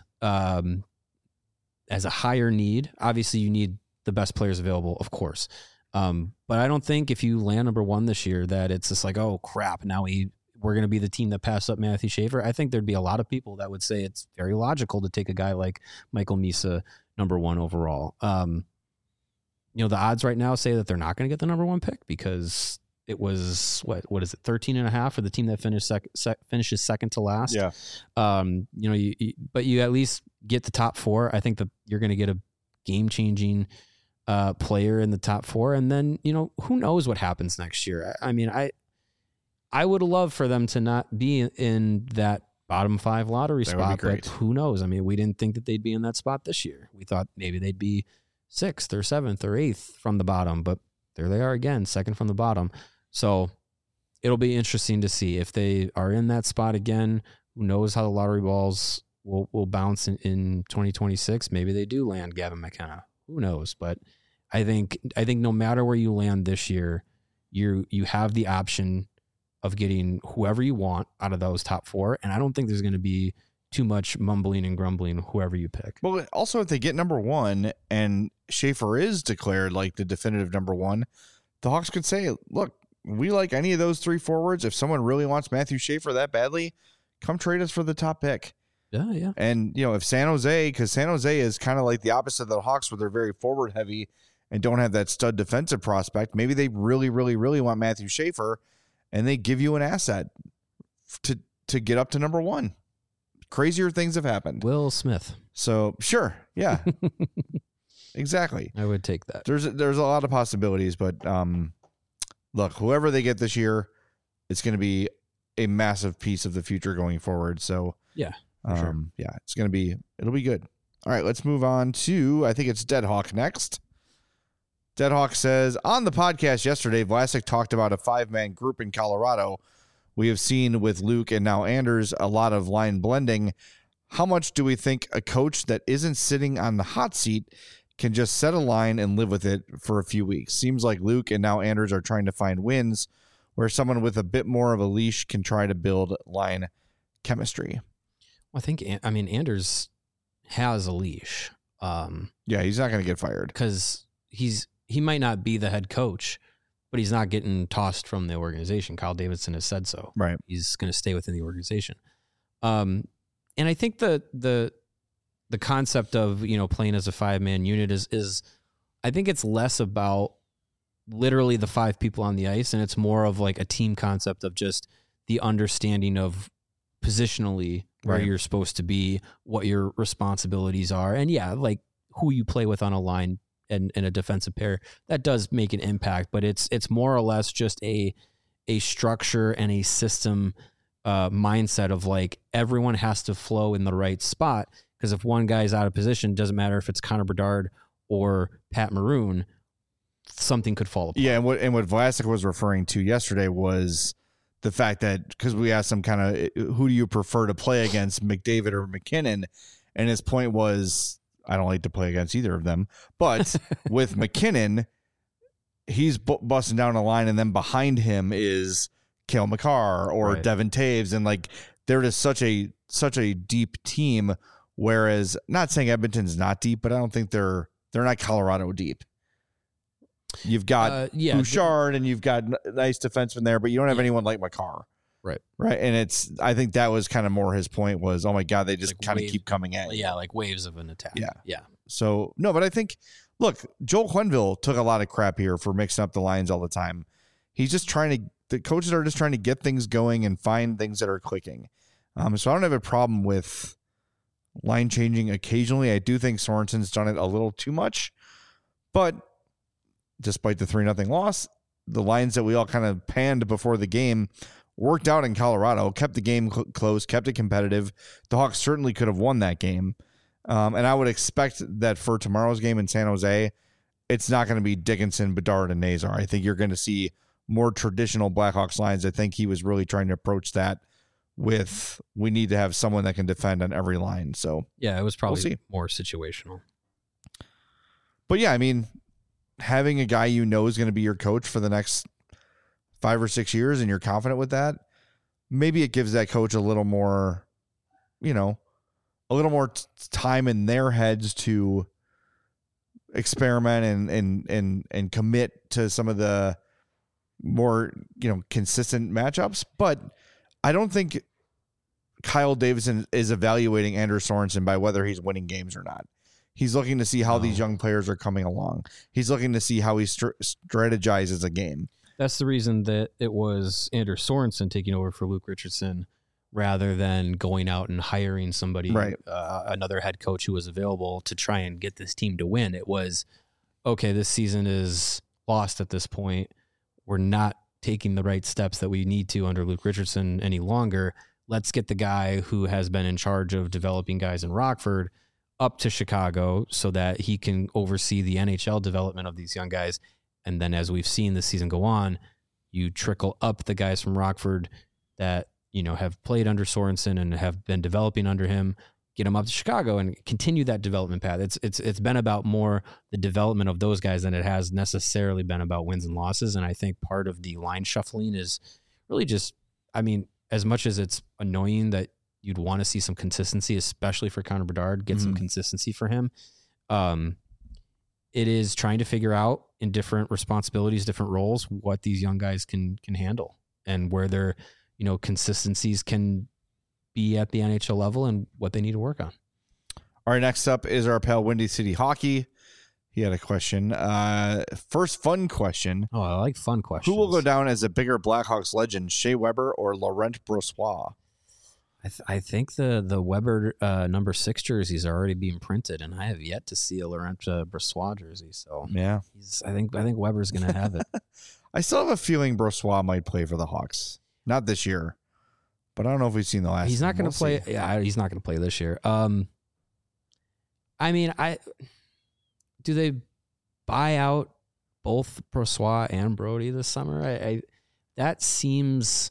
S2: as a higher need. Obviously, you need the best players available, of course. But I don't think if you land number 1 this year that it's just like, oh, crap, now we're going to be the team that passed up Matthew Schaefer. I think there'd be a lot of people that would say it's very logical to take a guy like Michael Misa number 1 overall. The odds right now say that they're not going to get the number 1 pick because it was what is it, 13.5 for the team that finishes second to last.
S1: Yeah.
S2: But you at least get the top 4. I think that you're going to get a game-changing player in the top 4, and then who knows what happens next year. I mean, I would love for them to not be in that bottom 5 lottery
S1: That would
S2: spot,
S1: be great.
S2: but who knows? I mean, we didn't think that they'd be in that spot this year. We thought maybe they'd be 6th or 7th or 8th from the bottom, but there they are again, second from the bottom. So it'll be interesting to see if they are in that spot again. Who knows how the lottery balls will bounce in 2026? Maybe they do land Gavin McKenna. Who knows? But I think no matter where you land this year, you have the option of getting whoever you want out of those top 4. And I don't think there's going to be too much mumbling and grumbling whoever you pick.
S1: Well, also if they get number 1 and Schaefer is declared like the definitive number 1, the Hawks could say, look, we like any of those 3 forwards. If someone really wants Matthew Schaefer that badly, come trade us for the top pick.
S2: Yeah.
S1: And, if San Jose, because San Jose is kind of like the opposite of the Hawks where they're very forward heavy and don't have that stud defensive prospect. Maybe they really, really, really want Matthew Schaefer and they give you an asset to get up to number 1. Crazier things have happened.
S2: Will Smith.
S1: So sure. Yeah, exactly.
S2: I would take that.
S1: There's a lot of possibilities, but look, whoever they get this year, it's going to be a massive piece of the future going forward. So
S2: yeah, for sure.
S1: Yeah, it'll be good. All right, let's move on to, I think it's Deadhawk next. Deadhawk says, on the podcast yesterday, Vlasic talked about a 5-man group in Colorado. We have seen with Luke and now Anders a lot of line blending. How much do we think a coach that isn't sitting on the hot seat can just set a line and live with it for a few weeks? Seems like Luke and now Anders are trying to find wins where someone with a bit more of a leash can try to build line chemistry.
S2: Well, Anders has a leash.
S1: Yeah, he's not going to get fired.
S2: Because he might not be the head coach, but he's not getting tossed from the organization. Kyle Davidson has said so.
S1: Right.
S2: He's going to stay within the organization. And I think the concept of, playing as a 5-man unit is I think it's less about literally the 5 people on the ice, and it's more of like a team concept of just the understanding of positionally where
S1: Right.
S2: you're supposed to be, what your responsibilities are. And yeah, like who you play with on a line and a defensive pair, that does make an impact, but it's more or less just a structure and a system mindset of like everyone has to flow in the right spot, because if one guy's out of position, doesn't matter if it's Connor Bedard or Pat Maroon, something could fall apart.
S1: Yeah, and what Vlasic was referring to yesterday was the fact that, because we asked him kind of, who do you prefer to play against, McDavid or McKinnon? And his point was, I don't like to play against either of them. But with McKinnon, he's busting down a line, and then behind him is Cale Makar or Devin Taves. And like, they're just such a deep team. Whereas, not saying Edmonton's not deep, but I don't think they're not Colorado deep. You've got Bouchard and you've got nice defensemen there, but you don't have anyone like Makar.
S2: Right.
S1: And I think that was kind of more his point was, oh my God, they just like kind of keep coming at you.
S2: Yeah, like waves of an attack. Yeah.
S1: So, no, but I think, look, Joel Quenneville took a lot of crap here for mixing up the lines all the time. He's just the coaches are just trying to get things going and find things that are clicking. So I don't have a problem with line changing occasionally. I do think Sorensen's done it a little too much, but despite the 3-0 loss, the lines that we all kind of panned before the game worked out in Colorado, kept the game close, kept it competitive. The Hawks certainly could have won that game. And I would expect that for tomorrow's game in San Jose, it's not going to be Dickinson, Bedard, and Nazar. I think you're going to see more traditional Blackhawks lines. I think he was really trying to approach that with, we need to have someone that can defend on every line. So
S2: yeah, it was probably more situational.
S1: But yeah, I mean, having a guy is going to be your coach for the next 5 or 6 years and you're confident with that, maybe it gives that coach a little more, time in their heads to experiment and commit to some of the more, consistent matchups. But I don't think Kyle Davidson is evaluating Anders Sorensen by whether he's winning games or not. He's looking to see how these young players are coming along. He's looking to see how he strategizes a game.
S2: That's the reason that it was Anders Sorensen taking over for Luke Richardson rather than going out and hiring somebody, another head coach who was available to try and get this team to win. It was, okay, this season is lost at this point. We're not taking the right steps that we need to under Luke Richardson any longer. Let's get the guy who has been in charge of developing guys in Rockford up to Chicago so that he can oversee the NHL development of these young guys. And then as we've seen this season go on, you trickle up the guys from Rockford that, have played under Sorensen and have been developing under him, get them up to Chicago and continue that development path. It's been about more the development of those guys than it has necessarily been about wins and losses. And I think part of the line shuffling is really just, as much as it's annoying that you'd want to see some consistency, especially for Connor Bedard, get some consistency for him. It is trying to figure out in different responsibilities, different roles, what these young guys can handle and where their, consistencies can be at the NHL level and what they need to work on.
S1: All right, next up is our pal Windy City Hockey. He had a question. First fun question.
S2: Oh, I like fun questions.
S1: Who will go down as a bigger Blackhawks legend, Shea Weber or Laurent Brossoit?
S2: I think the Weber number 6 jerseys are already being printed, and I have yet to see a Laurent Brossoit jersey. So
S1: yeah,
S2: I think Weber's going to have it.
S1: I still have a feeling Brossoit might play for the Hawks, not this year, but I don't know if we've seen the last.
S2: He's not going to play. Yeah, he's not going to play this year. Do they buy out both Brossoit and Brody this summer? That seems.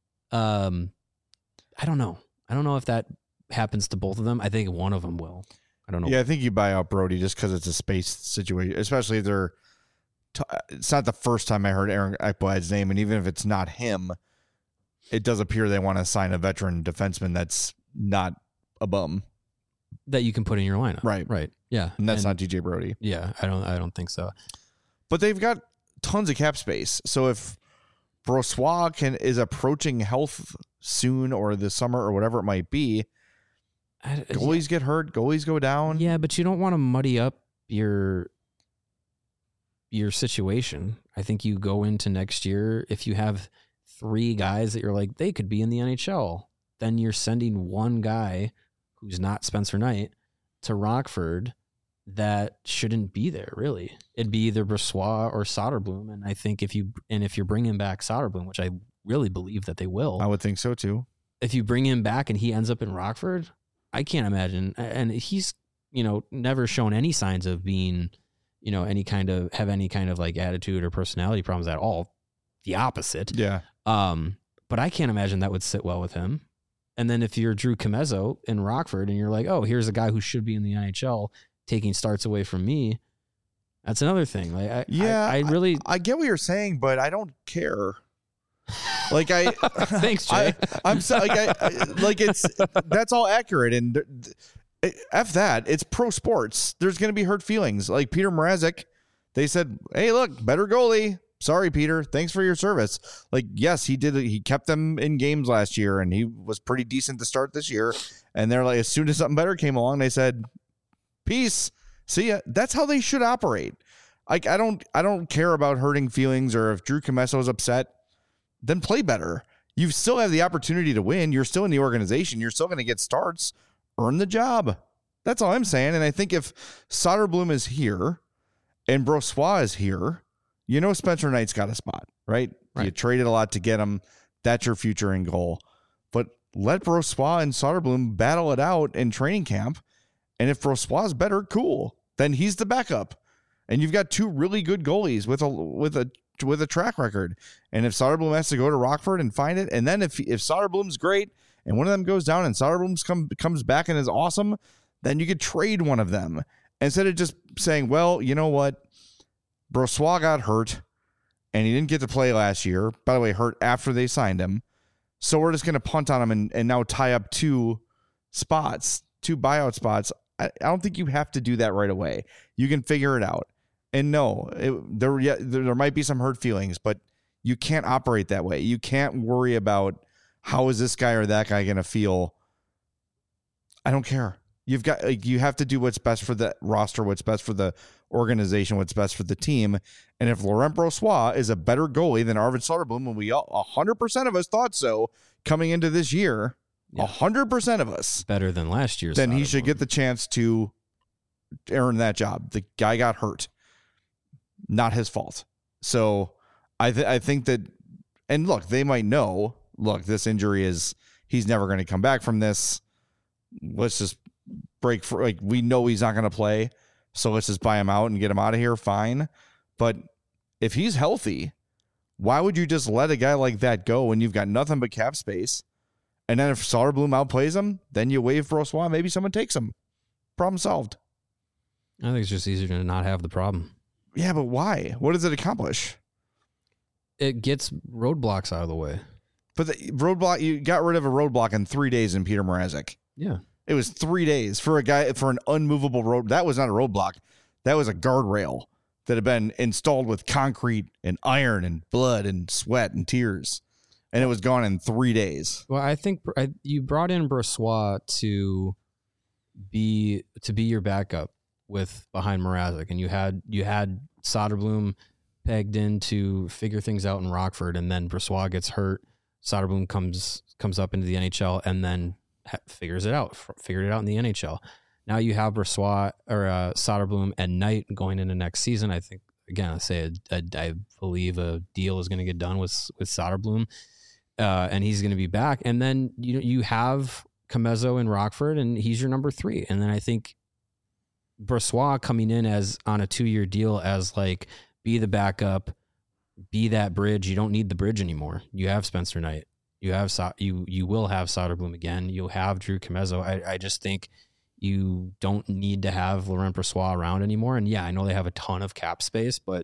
S2: I don't know. I don't know if that happens to both of them. I think one of them will. I don't know.
S1: Yeah, I think you buy out Brody just because it's a space situation, especially if they're. It's not the first time I heard Aaron Ekblad's name, and even if it's not him, it does appear they want to sign a veteran defenseman that's not a bum
S2: that you can put in your lineup. Right. Yeah,
S1: and that's not DJ Brody.
S2: Yeah, I don't think so.
S1: But they've got tons of cap space, so if Brossoit is approaching health soon or this summer or whatever it might be, goalies get hurt, goalies go down.
S2: Yeah, but you don't want to muddy up your situation. I think you go into next year, if you have 3 guys that you're like, they could be in the NHL, then you're sending one guy who's not Spencer Knight to Rockford that shouldn't be there, really. It'd be either Brossoit or Soderblom. And I think if you're bringing back Soderblom, which I really believe that they will.
S1: I would think so too.
S2: If you bring him back and he ends up in Rockford, I can't imagine. And he's, never shown any signs of being, any kind of like attitude or personality problems at all. The opposite.
S1: Yeah.
S2: But I can't imagine that would sit well with him. And then if you're Drew Comezzo in Rockford and you're like, oh, here's a guy who should be in the NHL taking starts away from me, that's another thing. Like, I
S1: get what you're saying, but I don't care. Like
S2: thanks, Jay.
S1: I'm so, that's all accurate, and F that. It's pro sports. There's going to be hurt feelings. Like Peter Mrazek, they said, hey, look, better goalie. Sorry, Peter. Thanks for your service. Like, yes, he did. He kept them in games last year, and he was pretty decent to start this year. And they're like, as soon as something better came along, they said, peace. See ya. That's how they should operate. Like, I don't care about hurting feelings, or if Drew Commesso is upset, then play better. You still have the opportunity to win. You're still in the organization. You're still going to get starts. Earn the job. That's all I'm saying. And I think if Soderblom is here and Brossoit is here, Spencer Knight's got a spot, right? You traded a lot to get him. That's your future in goal. But let Brossoit and Soderblom battle it out in training camp. And if Brossoit's better, cool. Then he's the backup. And you've got two really good goalies with a track record. And if Soderblom has to go to Rockford and find it, and then if Soderblom's great and one of them goes down and Soderblom comes back and is awesome, then you could trade one of them instead of just saying, well, you know what? Brossoit got hurt and he didn't get to play last year. By the way, hurt after they signed him. So we're just going to punt on him and now tie up two buyout spots. I don't think you have to do that right away. You can figure it out. And no, there might be some hurt feelings, but you can't operate that way. You can't worry about how is this guy or that guy going to feel. I don't care. You have to do what's best for the roster, what's best for the organization, what's best for the team. And if Laurent Brossoit is a better goalie than Arvid Soderblom, and we 100% of us thought so coming into this year, 100% of us
S2: better than last year's,
S1: then he should get the chance to earn that job. The guy got hurt, not his fault. So I think that, and look, they might know, look, this injury he's never going to come back from this. Let's just break for, like, we know he's not going to play, so let's just buy him out and get him out of here. Fine. But if he's healthy, why would you just let a guy like that go when you've got nothing but cap space? And then if Soderblom outplays him, then you waive Brossoit. Maybe someone takes him. Problem solved.
S2: I think it's just easier to not have the problem.
S1: Yeah, but why? What does it accomplish?
S2: It gets roadblocks out of the way.
S1: But the roadblock, you got rid of a roadblock in 3 days in Peter Mrazek.
S2: Yeah.
S1: It was 3 days for an unmovable road. That was not a roadblock. That was a guardrail that had been installed with concrete and iron and blood and sweat and tears. And it was gone in 3 days.
S2: Well, I think you brought in Brossoit to be your backup behind Mrazek, and you had Soderblom pegged in to figure things out in Rockford, and then Brossoit gets hurt. Soderblom comes up into the NHL and then figured it out in the NHL. Now you have Brossoit or Soderblom and Knight going into next season. I think, again, I believe a deal is going to get done with Soderblom. And he's going to be back. And then you have Comezzo in Rockford, and he's your number 3. And then I think Brossoit coming in as on a 2-year deal as like be the backup, be that bridge. You don't need the bridge anymore. You have Spencer Knight. You have you will have Soderblom again. You'll have Drew Comezzo. I just think you don't need to have Laurent Brossoit around anymore. And yeah, I know they have a ton of cap space, but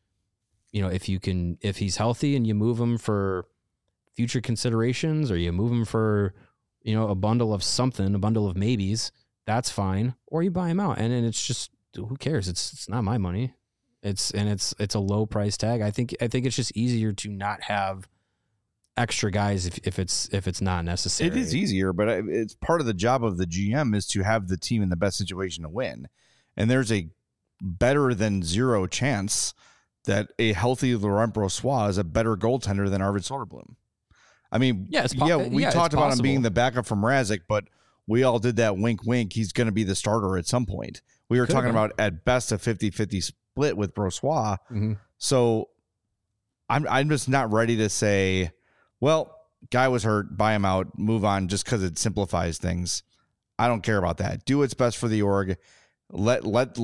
S2: if he's healthy and you move him for future considerations, or you move him for, a bundle of something, a bundle of maybes, that's fine. Or you buy him out, and then it's just, who cares? It's not my money. It's a low price tag. I think it's just easier to not have extra guys if it's not necessary.
S1: It is easier, but it's part of the job of the GM is to have the team in the best situation to win. And there's a better than zero chance that a healthy Laurent Brossoit is a better goaltender than Arvid Soderblom. I mean, we talked about him being the backup from Mrazek, but we all did that wink, wink. He's going to be the starter at some point. We were talking about at best a 50-50 split with Brossoit. Mm-hmm. So I'm just not ready to say, well, guy was hurt, buy him out, move on, just because it simplifies things. I don't care about that. Do what's best for the org. Let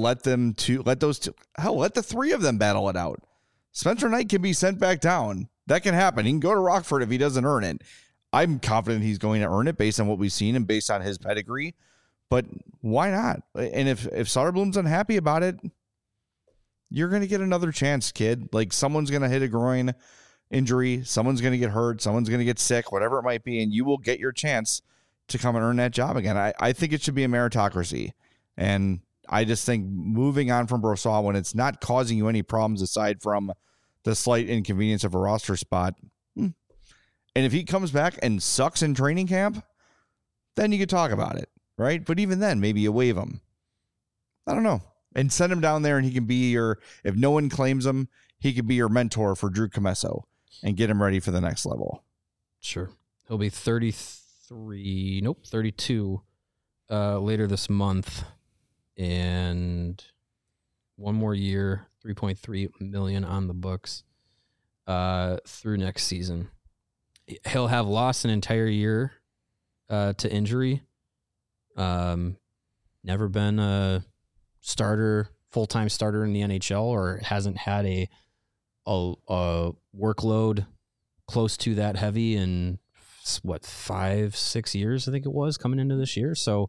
S1: the three of them battle it out. Spencer Knight can be sent back down. That can happen. He can go to Rockford if he doesn't earn it. I'm confident he's going to earn it based on what we've seen and based on his pedigree. But why not? And if Soderblom's unhappy about it, you're going to get another chance, kid. Like, someone's going to hit a groin injury. Someone's going to get hurt. Someone's going to get sick, whatever it might be. And you will get your chance to come and earn that job again. I think it should be a meritocracy. And I just think moving on from Brossoit when it's not causing you any problems aside from the slight inconvenience of a roster spot. And if he comes back and sucks in training camp, then you could talk about it, right? But even then, maybe you waive him. I don't know. And send him down there and he can be if no one claims him, he could be your mentor for Drew Comesso and get him ready for the next level.
S2: Sure. He'll be 32 later this month. And one more year, $3.3 million on the books through next season. He'll have lost an entire year to injury. Never been a full-time starter in the NHL, or hasn't had a workload close to that heavy in 5-6 years, I think it was, coming into this year. So,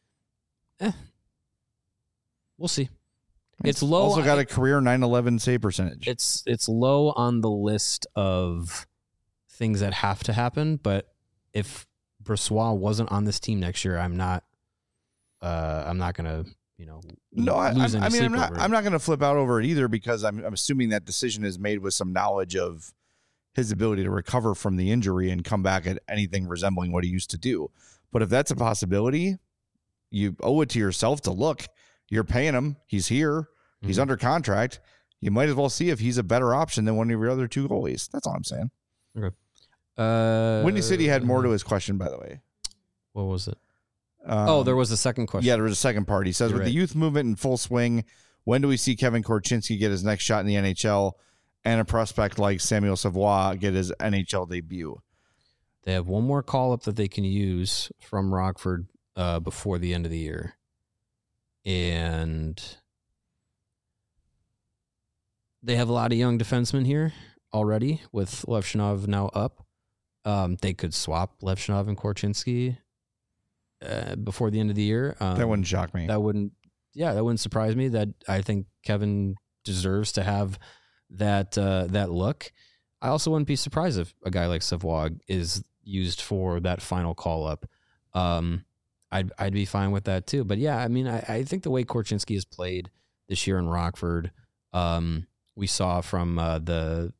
S2: we'll see. It's low.
S1: Also got a career 9/11 save percentage.
S2: It's low on the list of things that have to happen. But if Brossoit wasn't on this team next year, I'm not gonna lose any sleep over it.
S1: I'm not gonna flip out over it either, because I'm assuming that decision is made with some knowledge of his ability to recover from the injury and come back at anything resembling what he used to do. But if that's a possibility, you owe it to yourself to look. You're paying him. He's here. He's under contract. You might as well see if he's a better option than one of your other two goalies. That's all I'm saying.
S2: Okay.
S1: Windy City had more to his question, by the way.
S2: What was it? There was a second question.
S1: Yeah, there was a second part. He says, with the youth movement in full swing, when do we see Kevin Korchinski get his next shot in the NHL and a prospect like Samuel Savoie get his NHL debut?
S2: They have one more call-up that they can use from Rockford before the end of the year. And they have a lot of young defensemen here already with Levchinov now up. They could swap Levchinov and Korchinski before the end of the year.
S1: That wouldn't shock me.
S2: That wouldn't surprise me. That I think Kevin deserves to have that look. I also wouldn't be surprised if a guy like Savoie is used for that final call up. I'd be fine with that too. But yeah, I mean, I think the way Korchinski has played this year in Rockford, we saw from the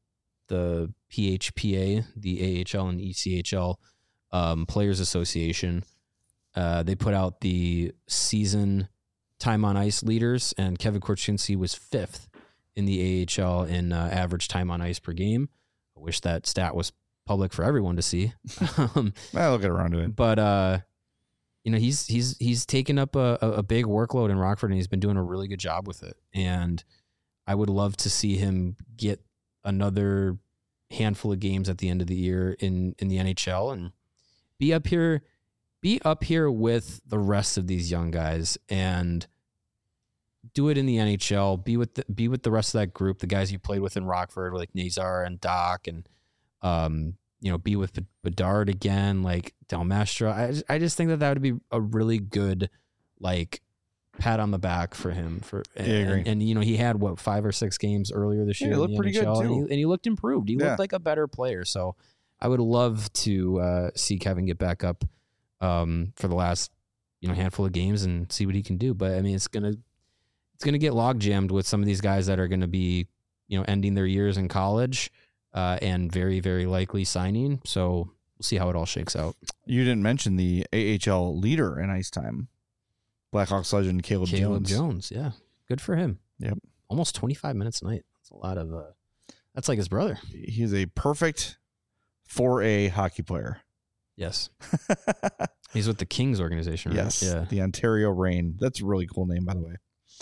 S2: PHPA, the AHL and ECHL Players Association. They put out the season time on ice leaders, and Kevin Korchinski was 5th in the AHL in average time on ice per game. I wish that stat was public for everyone to see.
S1: I'll get around to it.
S2: But he's taken up a big workload in Rockford, and he's been doing a really good job with it. And I would love to see him get another handful of games at the end of the year in the NHL and be up here with the rest of these young guys and do it in the NHL. Be with the rest of that group, the guys you played with in Rockford, like Nazar and Doc, and be with Bedard again, like Del Mastro. I just think that would be a really good, like, pat on the back for him. And he had 5 or 6 games earlier this year.
S1: He looked pretty
S2: NHL,
S1: good too,
S2: and he looked improved. He looked like a better player. So I would love to see Kevin get back up for the last handful of games and see what he can do. But I mean, it's gonna get log jammed with some of these guys that are going to be ending their years in college and very, very likely signing. So we'll see how it all shakes out.
S1: You didn't mention the AHL leader in ice time, Blackhawks legend Caleb Jones.
S2: Yeah, good for him.
S1: Yep,
S2: almost 25 minutes a night. That's a lot of. That's like his brother.
S1: He's a perfect 4A hockey player.
S2: Yes. He's with the Kings organization, right?
S1: Yes. Yeah. The Ontario Reign. That's a really cool name, by the way.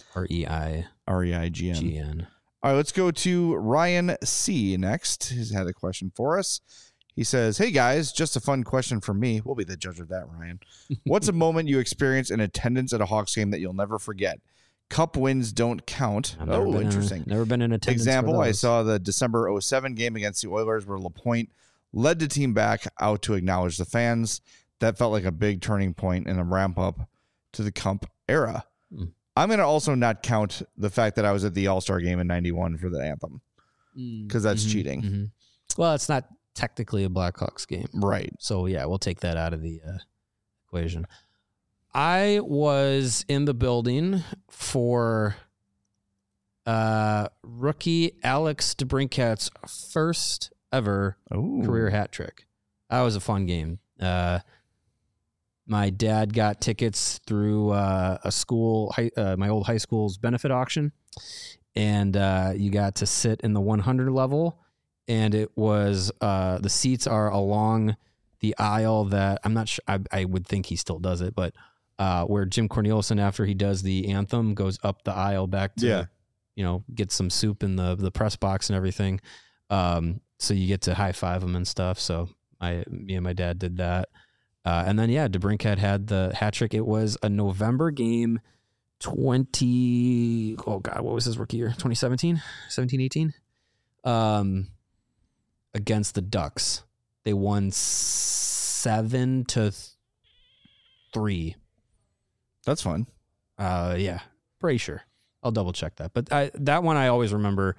S2: REIGN.
S1: All right, let's go to Ryan C. next. He's had a question for us. He says, "Hey guys, just a fun question from me." We'll be the judge of that, Ryan. What's a moment you experienced in attendance at a Hawks game that you'll never forget? Cup wins don't count. Interesting.
S2: Never been in attendance.
S1: Example, I saw the December 07 game against the Oilers where LaPointe led the team back out to acknowledge the fans. That felt like a big turning point and a ramp up to the Cup era. I'm going to also not count the fact that I was at the All-Star game in 91 for the anthem because that's cheating.
S2: Mm-hmm. Well, it's not technically a Blackhawks game.
S1: Right.
S2: So, yeah, we'll take that out of the equation. I was in the building for rookie Alex DeBrincat's first ever career hat trick. That was a fun game. My dad got tickets through a school, my old high school's benefit auction, and you got to sit in the 100 level, and it was the seats are along the aisle that I'm not sure. I would think he still does it, but where Jim Cornelison, after he does the anthem, goes up the aisle back to get some soup in the press box and everything. So you get to high five him and stuff. So me and my dad did that. And then, DeBrincat had the hat trick. It was a November game, what was his rookie year? 2017, 18? Against the Ducks. They won 7-3.
S1: That's fun.
S2: Pretty sure. I'll double check that. But that one I always remember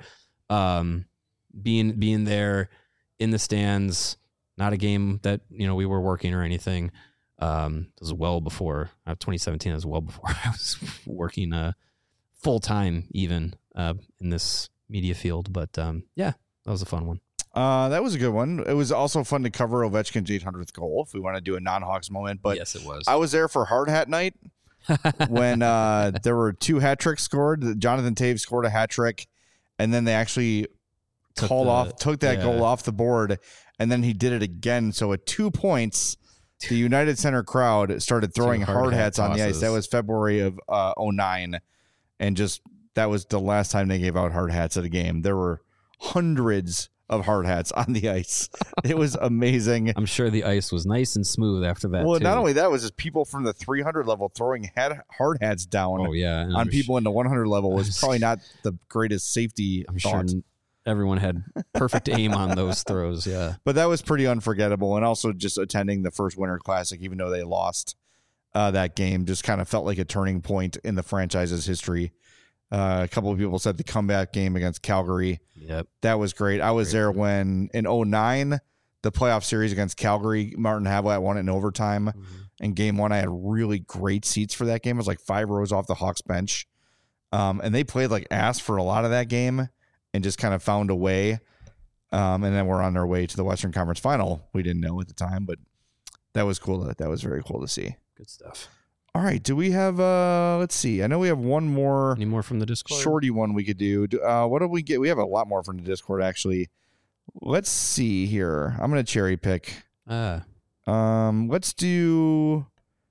S2: being there in the stands. Not a game that we were working or anything. It was well before 2017. It was well before I was working full time even in this media field. But that was a fun one.
S1: That was a good one. It was also fun to cover Ovechkin's 800th goal. If we want to do a non-Hawks moment, but
S2: yes, it was.
S1: I was there for Hard Hat Night when there were 2 hat tricks scored. Jonathan Toews scored a hat trick, and then they actually took that goal off the board. And then he did it again. So at 2 points, the United Center crowd started throwing hard hats on the ice. That was February of 09. And that was the last time they gave out hard hats at a game. There were hundreds of hard hats on the ice. It was amazing.
S2: I'm sure the ice was nice and smooth after that.
S1: Well, not only that, was just people from the 300 level throwing hard hats down on people in the 100 level was probably not the greatest safety thought.
S2: Sure everyone had perfect aim on those throws. Yeah.
S1: But that was pretty unforgettable. And also just attending the first Winter Classic, even though they lost that game, just kind of felt like a turning point in the franchise's history. A couple of people said the comeback game against Calgary.
S2: Yep.
S1: That was great. I was there when in 09, the playoff series against Calgary, Martin Havlat won it in overtime. Mm-hmm. In game 1, I had really great seats for that game. It was like 5 rows off the Hawks bench. And they played like ass for a lot of that game. And just kind of found a way. And then we're on our way to the Western Conference Final. We didn't know at the time, but that was cool. That was very cool to see.
S2: Good stuff.
S1: All right. Do we have, let's see. I know we have one more.
S2: Any more from the Discord?
S1: Shorty one we could do. What did we get? We have a lot more from the Discord, actually. Let's see here. I'm going to cherry pick. Let's do.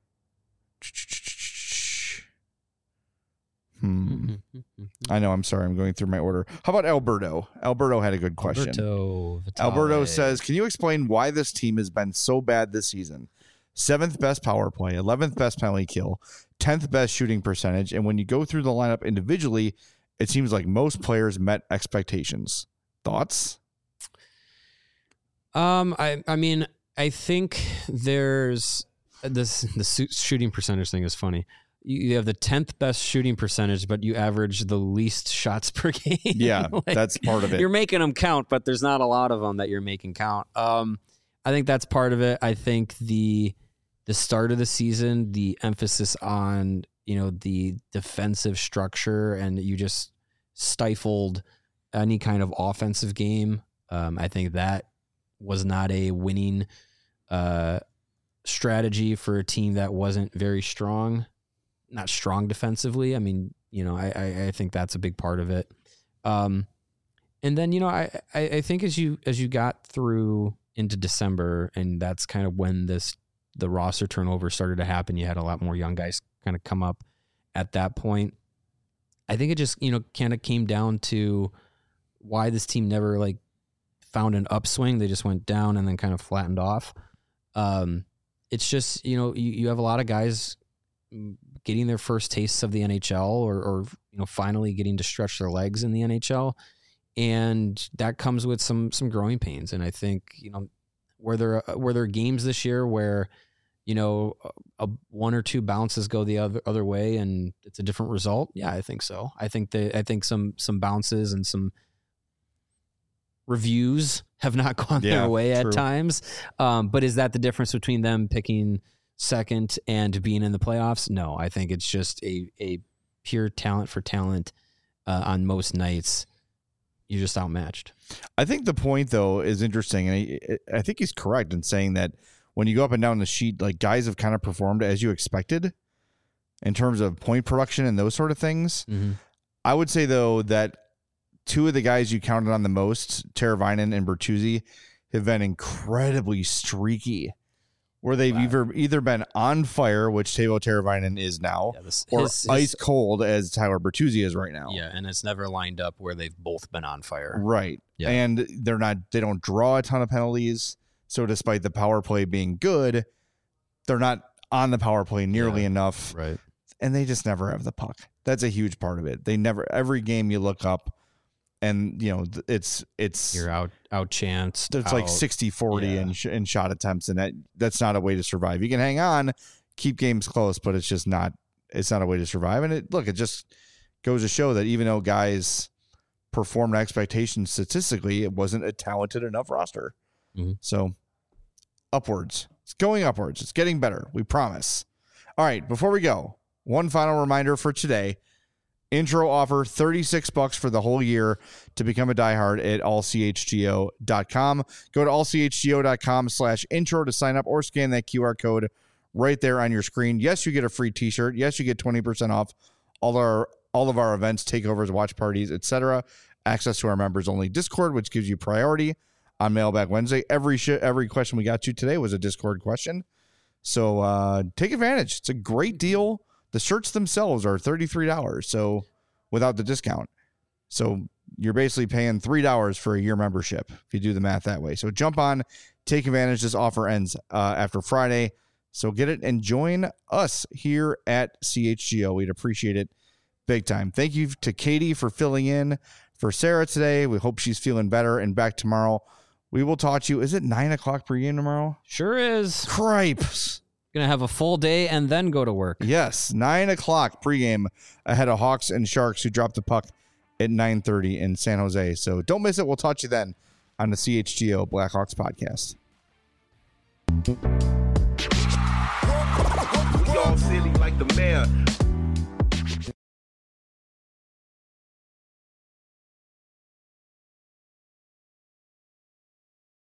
S1: I know. I'm sorry. I'm going through my order. How about Alberto? Alberto had a good question. Alberto says, can you explain why this team has been so bad this season? 7th best power play, 11th best penalty kill, 10th best shooting percentage. And when you go through the lineup individually, it seems like most players met expectations. Thoughts?
S2: I mean, I think there's the shooting percentage thing is funny. You have the 10th best shooting percentage, but you average the least shots per game.
S1: Yeah, that's part of it.
S2: You're making them count, but there's not a lot of them that you're making count. I think that's part of it. I think the start of the season, the emphasis on, the defensive structure, and you just stifled any kind of offensive game. I think that was not a winning strategy for a team that wasn't very strong. Not strong defensively. I mean, I think that's a big part of it. And then, I think as you got through into December, and that's kind of when the roster turnover started to happen. You had a lot more young guys kind of come up at that point. I think it just, kind of came down to why this team never found an upswing. They just went down and then kind of flattened off. It's just, you have a lot of guys getting their first tastes of the NHL or finally getting to stretch their legs in the NHL. And that comes with some growing pains. And I think, were there games this year where, one or two bounces go the other way and it's a different result? Yeah, I think so. I think some bounces and some reviews have not gone their way at times. But is that the difference between them picking second and being in the playoffs? No, I think it's just a pure talent for talent. On most nights, you're just outmatched.
S1: I think the point, though, is interesting. And I think he's correct in saying that when you go up and down the sheet, like, guys have kind of performed as you expected in terms of point production and those sort of things. Mm-hmm. I would say, though, that two of the guys you counted on the most, Teravainen and Bertuzzi, have been incredibly streaky, where they've either been on fire, which Teuvo Teravainen is now, or ice cold as Tyler Bertuzzi is right now.
S2: Yeah, and it's never lined up where they've both been on fire.
S1: Right. Yeah. And they don't draw a ton of penalties. So despite the power play being good, they're not on the power play nearly enough.
S2: Right.
S1: And they just never have the puck. That's a huge part of it. They never, every game you look up, and it's
S2: you're out chanced.
S1: It's like 60-40 in shot attempts, and that's not a way to survive. You can hang on, keep games close, but it's not a way to survive. And it just goes to show that even though guys performed expectations statistically, it wasn't a talented enough roster. Mm-hmm. So upwards. It's going upwards. It's getting better. We promise. All right, before we go, one final reminder for today. Intro offer $36 for the whole year to become a diehard at allchgo.com. Go to allchgo.com/intro to sign up or scan that QR code right there on your screen. Yes, you get a free t-shirt. Yes, you get 20% off all of our events, takeovers, watch parties, etc. Access to our members only Discord, which gives you priority on Mailbag Wednesday. Every question we got to today was a Discord question. So take advantage. It's a great deal. The shirts themselves are $33, so without the discount. So you're basically paying $3 for a year membership if you do the math that way. So jump on, take advantage. This offer ends after Friday. So get it and join us here at CHGO. We'd appreciate it big time. Thank you to Katie for filling in for Sarah today. We hope she's feeling better and back tomorrow. We will talk to you. Is it 9 o'clock pregame tomorrow?
S2: Sure is.
S1: Cripes.
S2: Going to have a full day and then go to work.
S1: Yes, 9 o'clock pregame ahead of Hawks and Sharks, who dropped the puck at 9:30 in San Jose. So don't miss it. We'll talk to you then on the CHGO Blackhawks podcast.
S4: We all silly like the mayor.